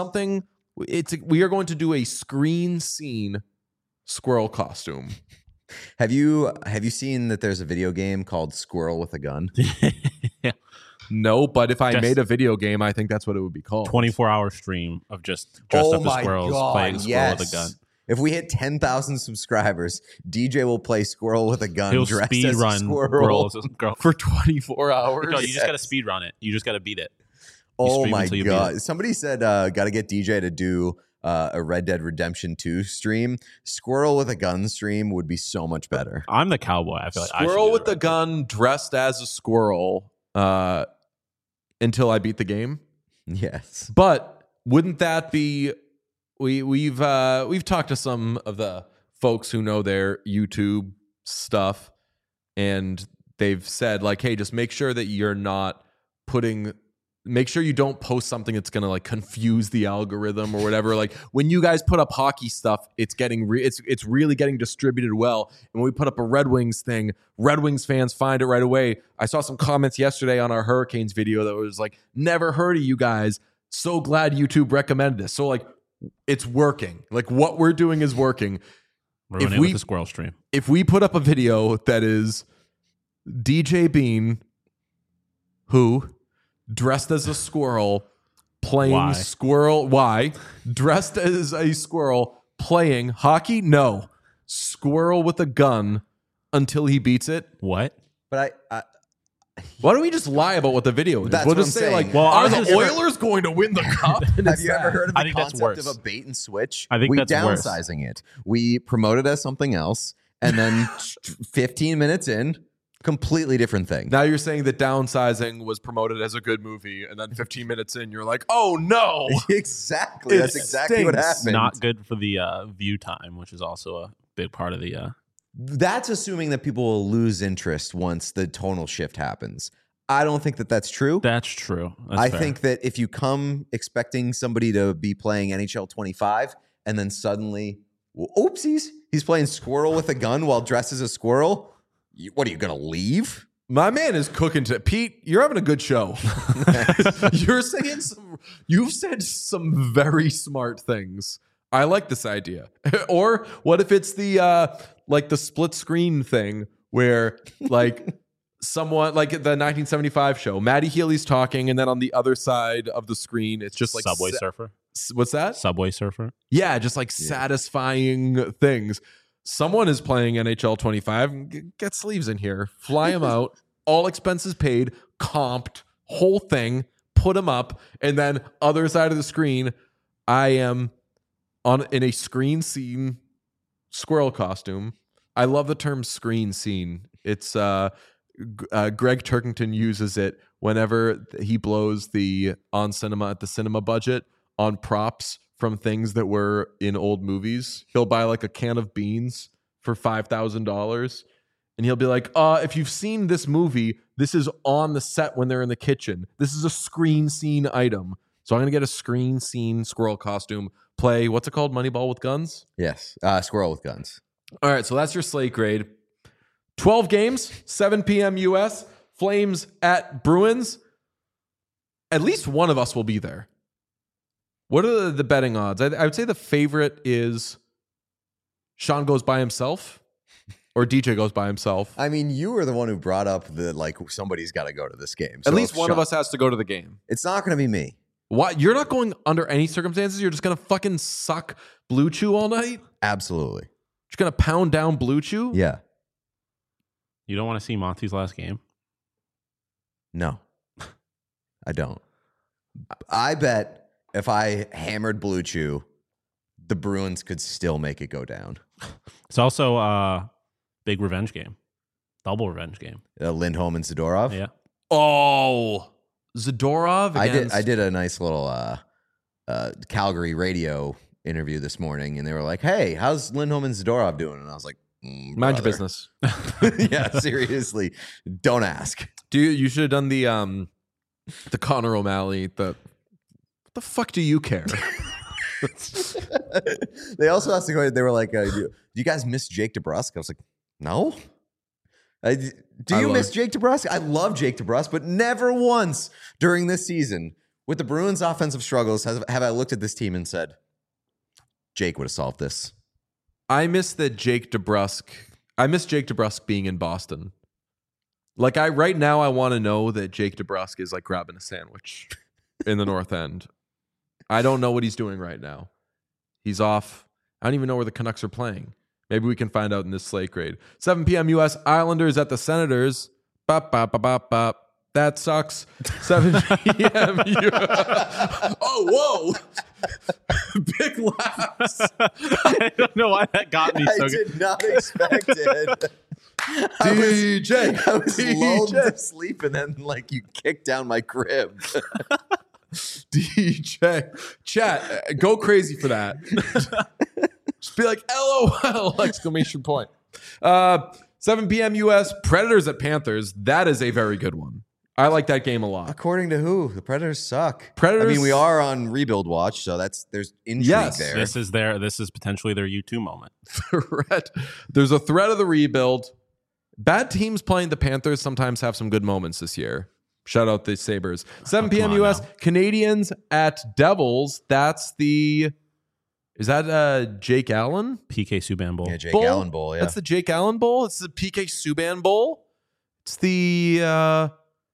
we are going to do a screen scene squirrel costume. Have you seen that there's a video game called Squirrel with a Gun? Yeah. No, but if I made a video game, I think that's what it would be called. 24-hour stream of just dressed up as squirrels playing Squirrel with a Gun. If we hit 10,000 subscribers, DJ will play Squirrel with a Gun. He'll dressed speed as run a squirrel for 24 hours. No, you just got to speed run it. You just got to beat it. Oh my God. Somebody said, got to get DJ to do a Red Dead Redemption 2 stream. Squirrel with a Gun stream would be so much better. I'm the cowboy. I feel like Squirrel with a gun dressed as a squirrel until I beat the game. Yes. But wouldn't that be... We've talked to some of the folks who know their YouTube stuff, and they've said, like, hey, just make sure that you're not make ssure you don't post something that's gonna like confuse the algorithm or whatever. Like, when you guys put up hockey stuff, it's getting it's really getting distributed well. And when we put up a Red Wings thing, Red Wings fans find it right away. I saw some comments yesterday on our Hurricanes video that was like, never heard of you guys. So glad YouTube recommended this. So like, it's working. Like, what we're doing is working. Ruin it with the squirrel stream. If we put up a video that is DJ Bean, who dressed as a squirrel playing squirrel, dressed as a squirrel playing hockey? No. Squirrel with a gun until he beats it. What? But Why don't we just lie about what the video is? That's We'll what just I'm say saying. like, Well, are I the was just- Oilers going to win the cup? And Have it's you ever that. heard of I the think that's concept of worse. a bait and switch? I think we that's worse. downsizing it. We promote it as something else, and then 15 minutes in, completely different thing. Now you're saying that Downsizing was promoted as a good movie, and then 15 minutes in, you're like, oh no. Exactly. That's It exactly what stinks. happened. Not good for the view time, which is also a big part of the. That's assuming that people will lose interest once the tonal shift happens. I don't think that that's true. That's true. That's I fair. think that if you come expecting somebody to be playing NHL 25 and then suddenly, oopsies, he's playing squirrel with a gun while dressed as a squirrel, what are you going to leave? My man is cooking to Pete. You're having a good show. You've said some very smart things. I like this idea. Or what if it's the like the split screen thing where like someone like the 1975 show, Matty Healy's talking, and then on the other side of the screen, it's just like Subway Surfer. What's that? Subway Surfer. Yeah, just like satisfying things. Someone is playing NHL 25. Get sleeves in here. Fly them out. All expenses paid. Comped. Whole thing. Put them up. And then other side of the screen, I am in a screen scene squirrel costume. I love the term screen scene. It's Greg Turkington uses it whenever he blows the on cinema at the cinema budget on props from things that were in old movies. He'll buy like a can of beans for $5,000 and he'll be like, if you've seen this movie, this is on the set when they're in the kitchen. This is a screen scene item. So I'm going to get a screen scene squirrel costume, play, what's it called? Moneyball with guns? Yes. Squirrel with guns. All right, so that's your slate grade. 12 games, 7 p.m. US, Flames at Bruins. At least one of us will be there. What are the betting odds? I would say the favorite is Sean goes by himself or DJ goes by himself. I mean, you were the one who brought up the, like, somebody's got to go to this game. So At least if one of us has to go to the game. It's not going to be me. What? You're not going under any circumstances? You're just going to fucking suck Blue Chew all night? Absolutely. Just going to pound down Blue Chew? Yeah. You don't want to see Monty's last game? No, I don't. I bet if I hammered Blue Chew, the Bruins could still make it go down. It's also a big revenge game. Double revenge game. Lindholm and Zadorov. Yeah. Oh, Zadorov against... I did a nice little Calgary radio interview this morning, and they were like, "Hey, how's Lindholm and Zadorov doing?" And I was like, Mind your business. Yeah, seriously, don't ask. You should have done the Connor O'Malley. What the fuck do you care? They also asked to go. They were like, "Do you guys miss Jake DeBrusk?" I was like, "No." Do you miss Jake DeBrusk? I love Jake DeBrusk, but never once during this season with the Bruins' offensive struggles have I looked at this team and said, "Jake would have solved this." I miss Jake DeBrusk being in Boston. Like right now, I want to know that Jake DeBrusk is like grabbing a sandwich in the North End. I don't know what he's doing right now. He's off. I don't even know where the Canucks are playing. Maybe we can find out in this slate grade. 7 p.m. U.S. Islanders at the Senators. Bop, bop, bop, bop, bop. That sucks. 7 p.m. Oh, whoa. Big laughs. I don't know why that got me so I good. did not expect it. DJ. I was lulled to sleep, and then like you kicked down my crib. DJ. Chat, go crazy for that. Just be like, LOL, exclamation point. 7 p.m. U.S. Predators at Panthers. That is a very good one. I like that game a lot. According to who? The Predators suck. Predators. I mean, we are on rebuild watch, so there's intrigue Yes. there. This is potentially their U2 moment. There's a threat of the rebuild. Bad teams playing the Panthers sometimes have some good moments this year. Shout out the Sabres. 7 p.m. come on U.S. now. Canadians at Devils. Is that Jake Allen? PK Subban Bowl. Yeah, Jake Bowl? Allen Bowl. Yeah, That's the Jake Allen Bowl. It's the PK Subban Bowl. It's the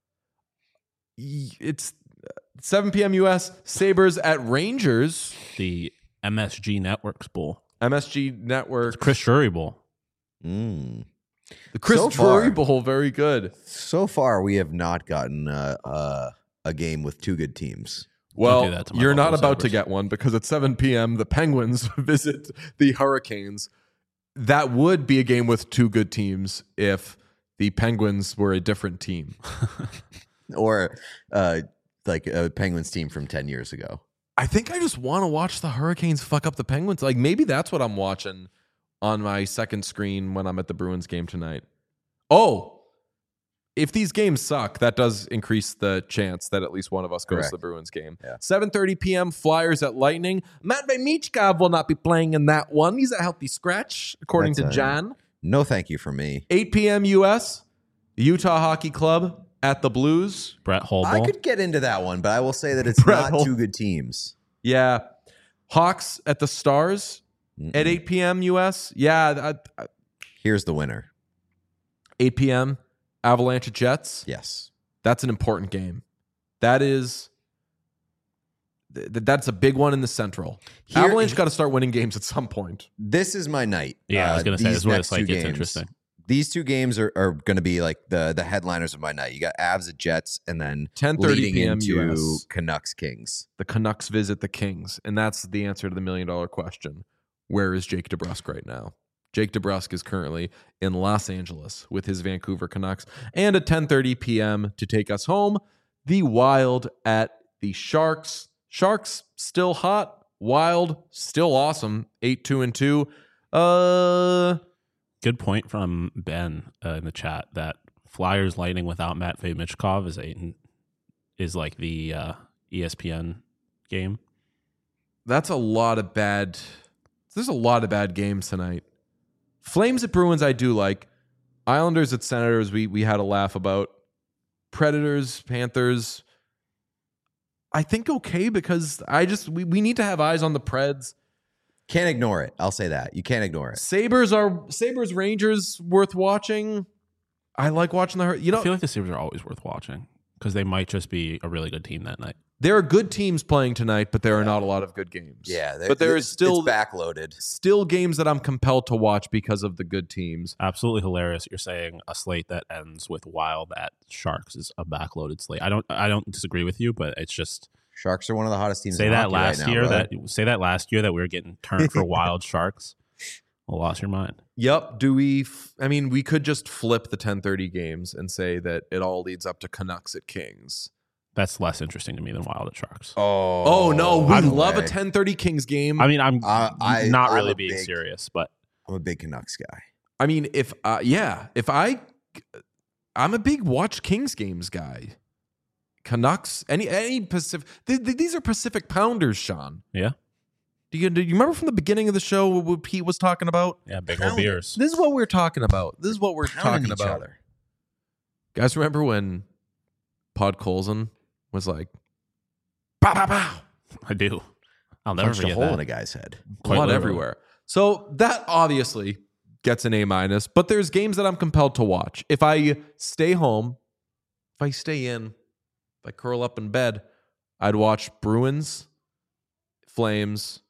it's 7 p.m. U.S. Sabres at Rangers. The MSG Networks Bowl. MSG Network. Chris Drury Bowl. The Chris So Drury far. Bowl, very good. So far, we have not gotten a game with two good teams. Well, do that to my you're not Buffalo about to Sabres. get one because at 7 p.m. the Penguins visit the Hurricanes. That would be a game with two good teams if the Penguins were a different team. Or like a Penguins team from 10 years ago. I think I just want to watch the Hurricanes fuck up the Penguins. Like maybe that's what I'm watching on my second screen when I'm at the Bruins game tonight. Oh, if these games suck, that does increase the chance that at least one of us goes Correct. to the Bruins game. Yeah. 7:30 p.m. Flyers at Lightning. Matvei Michkov will not be playing in that one. He's a healthy scratch, according That's to John. No, thank you for me. 8 p.m. U.S. Utah Hockey Club at the Blues. Brett I Holbowl. could get into that one, but I will say that it's Brett not Hol- two good teams. Yeah. Hawks at the Stars at 8 p.m. U.S. Yeah. Here's the winner. 8 p.m. Avalanche at Jets. Yes. That's an important game. That is. That's a big one in the Central. Here- Avalanche got to start winning games at some point. This is my night. Yeah, I was going to say, these this is where next it's like two it's games. interesting. These two games are going to be like the headliners of my night. You got Avs at Jets, and then 10:30 leading p.m. into US. Canucks Kings. The Canucks visit the Kings, and that's the answer to the $1 million question. Where is Jake DeBrusk right now? Jake DeBrusk is currently in Los Angeles with his Vancouver Canucks. And at 10:30 p.m. to take us home, the Wild at the Sharks. Sharks still hot. Wild still awesome. 8-2-2. Good point from Ben in the chat that Flyers Lightning without Matvei Michkov is like the ESPN game. That's a lot of bad. There's a lot of bad games tonight. Flames at Bruins, I do like. Islanders at Senators, we had a laugh about. Predators, Panthers, I think okay because we need to have eyes on the Preds. Can't ignore it. I'll say that. You can't ignore it. Sabres Rangers worth watching. I like watching I feel like the Sabres are always worth watching because they might just be a really good team that night. there are good teams playing tonight, but there are not a lot of good games. Yeah, but there is still it's backloaded. Still games that I'm compelled to watch because of the good teams. Absolutely hilarious. You're saying a slate that ends with Wild at Sharks is a backloaded slate. I don't disagree with you, but it's just Sharks are one of the hottest teams. say in that hockey last right now, year brother. say that last year that we were getting turned for Wild Sharks. Well, lost your mind. Yep. Do we? I mean, we could just flip the 10:30 games and say that it all leads up to Canucks at Kings. That's less interesting to me than Wild at Sharks. Oh no, we by the love a way, 10:30 Kings game. I mean, I'm not I'm really a being big- serious, but I'm a big Canucks guy. I mean, I'm a big watch Kings games guy. Canucks, any Pacific. These are Pacific Pounders, Sean. yeah, Do you remember from the beginning of the show what Pete was talking about? yeah, big old Pounding. beers. This is what we're talking about. This is what we're Pounding talking each about. other. Guys, remember when Pod Colson was like, "Pow pow pow." I do. I'll never Punched a forget hole that. in a guy's head. Quite Blood literally. everywhere. So that obviously gets an A-, but there's games that I'm compelled to watch. If I stay home, if I stay in, if I curl up in bed, I'd watch Bruins, Flames,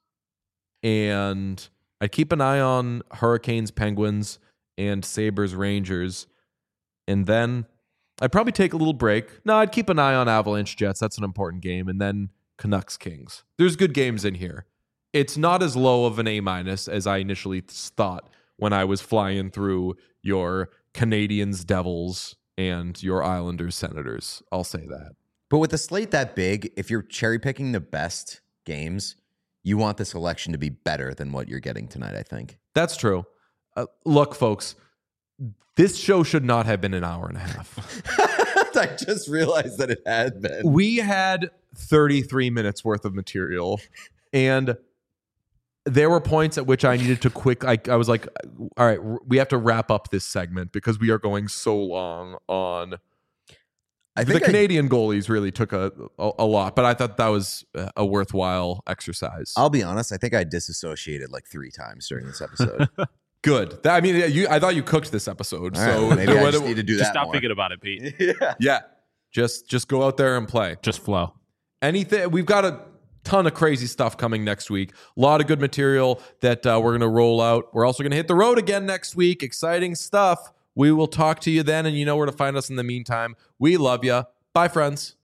and I'd keep an eye on Hurricanes, Penguins, and Sabres, Rangers. And then I'd probably take a little break. No, I'd keep an eye on Avalanche, Jets. That's an important game. And then Canucks, Kings. There's good games in here. It's not as low of an A- as I initially thought when I was flying through your Canadians, Devils, and your Islanders, Senators. I'll say that. But with a slate that big, if you're cherry picking the best games, you want the selection to be better than what you're getting tonight, I think. That's true. Look, folks, this show should not have been an hour and a half. I just realized that it had been. We had 33 minutes worth of material, and there were points at which I needed to I was like, all right, we have to wrap up this segment because we are going so long on. I The think Canadian goalies really took a lot, but I thought that was a worthwhile exercise. I'll be honest. I think I disassociated like 3 times during this episode. Good. I thought you cooked this episode, All so right, maybe I just need to do Just that stop more. thinking about it, Pete. Yeah. yeah, just go out there and play. Just flow. Anything. We've got a ton of crazy stuff coming next week. A lot of good material that we're going to roll out. We're also going to hit the road again next week. Exciting stuff. We will talk to you then, and you know where to find us in the meantime. We love you. Bye, friends.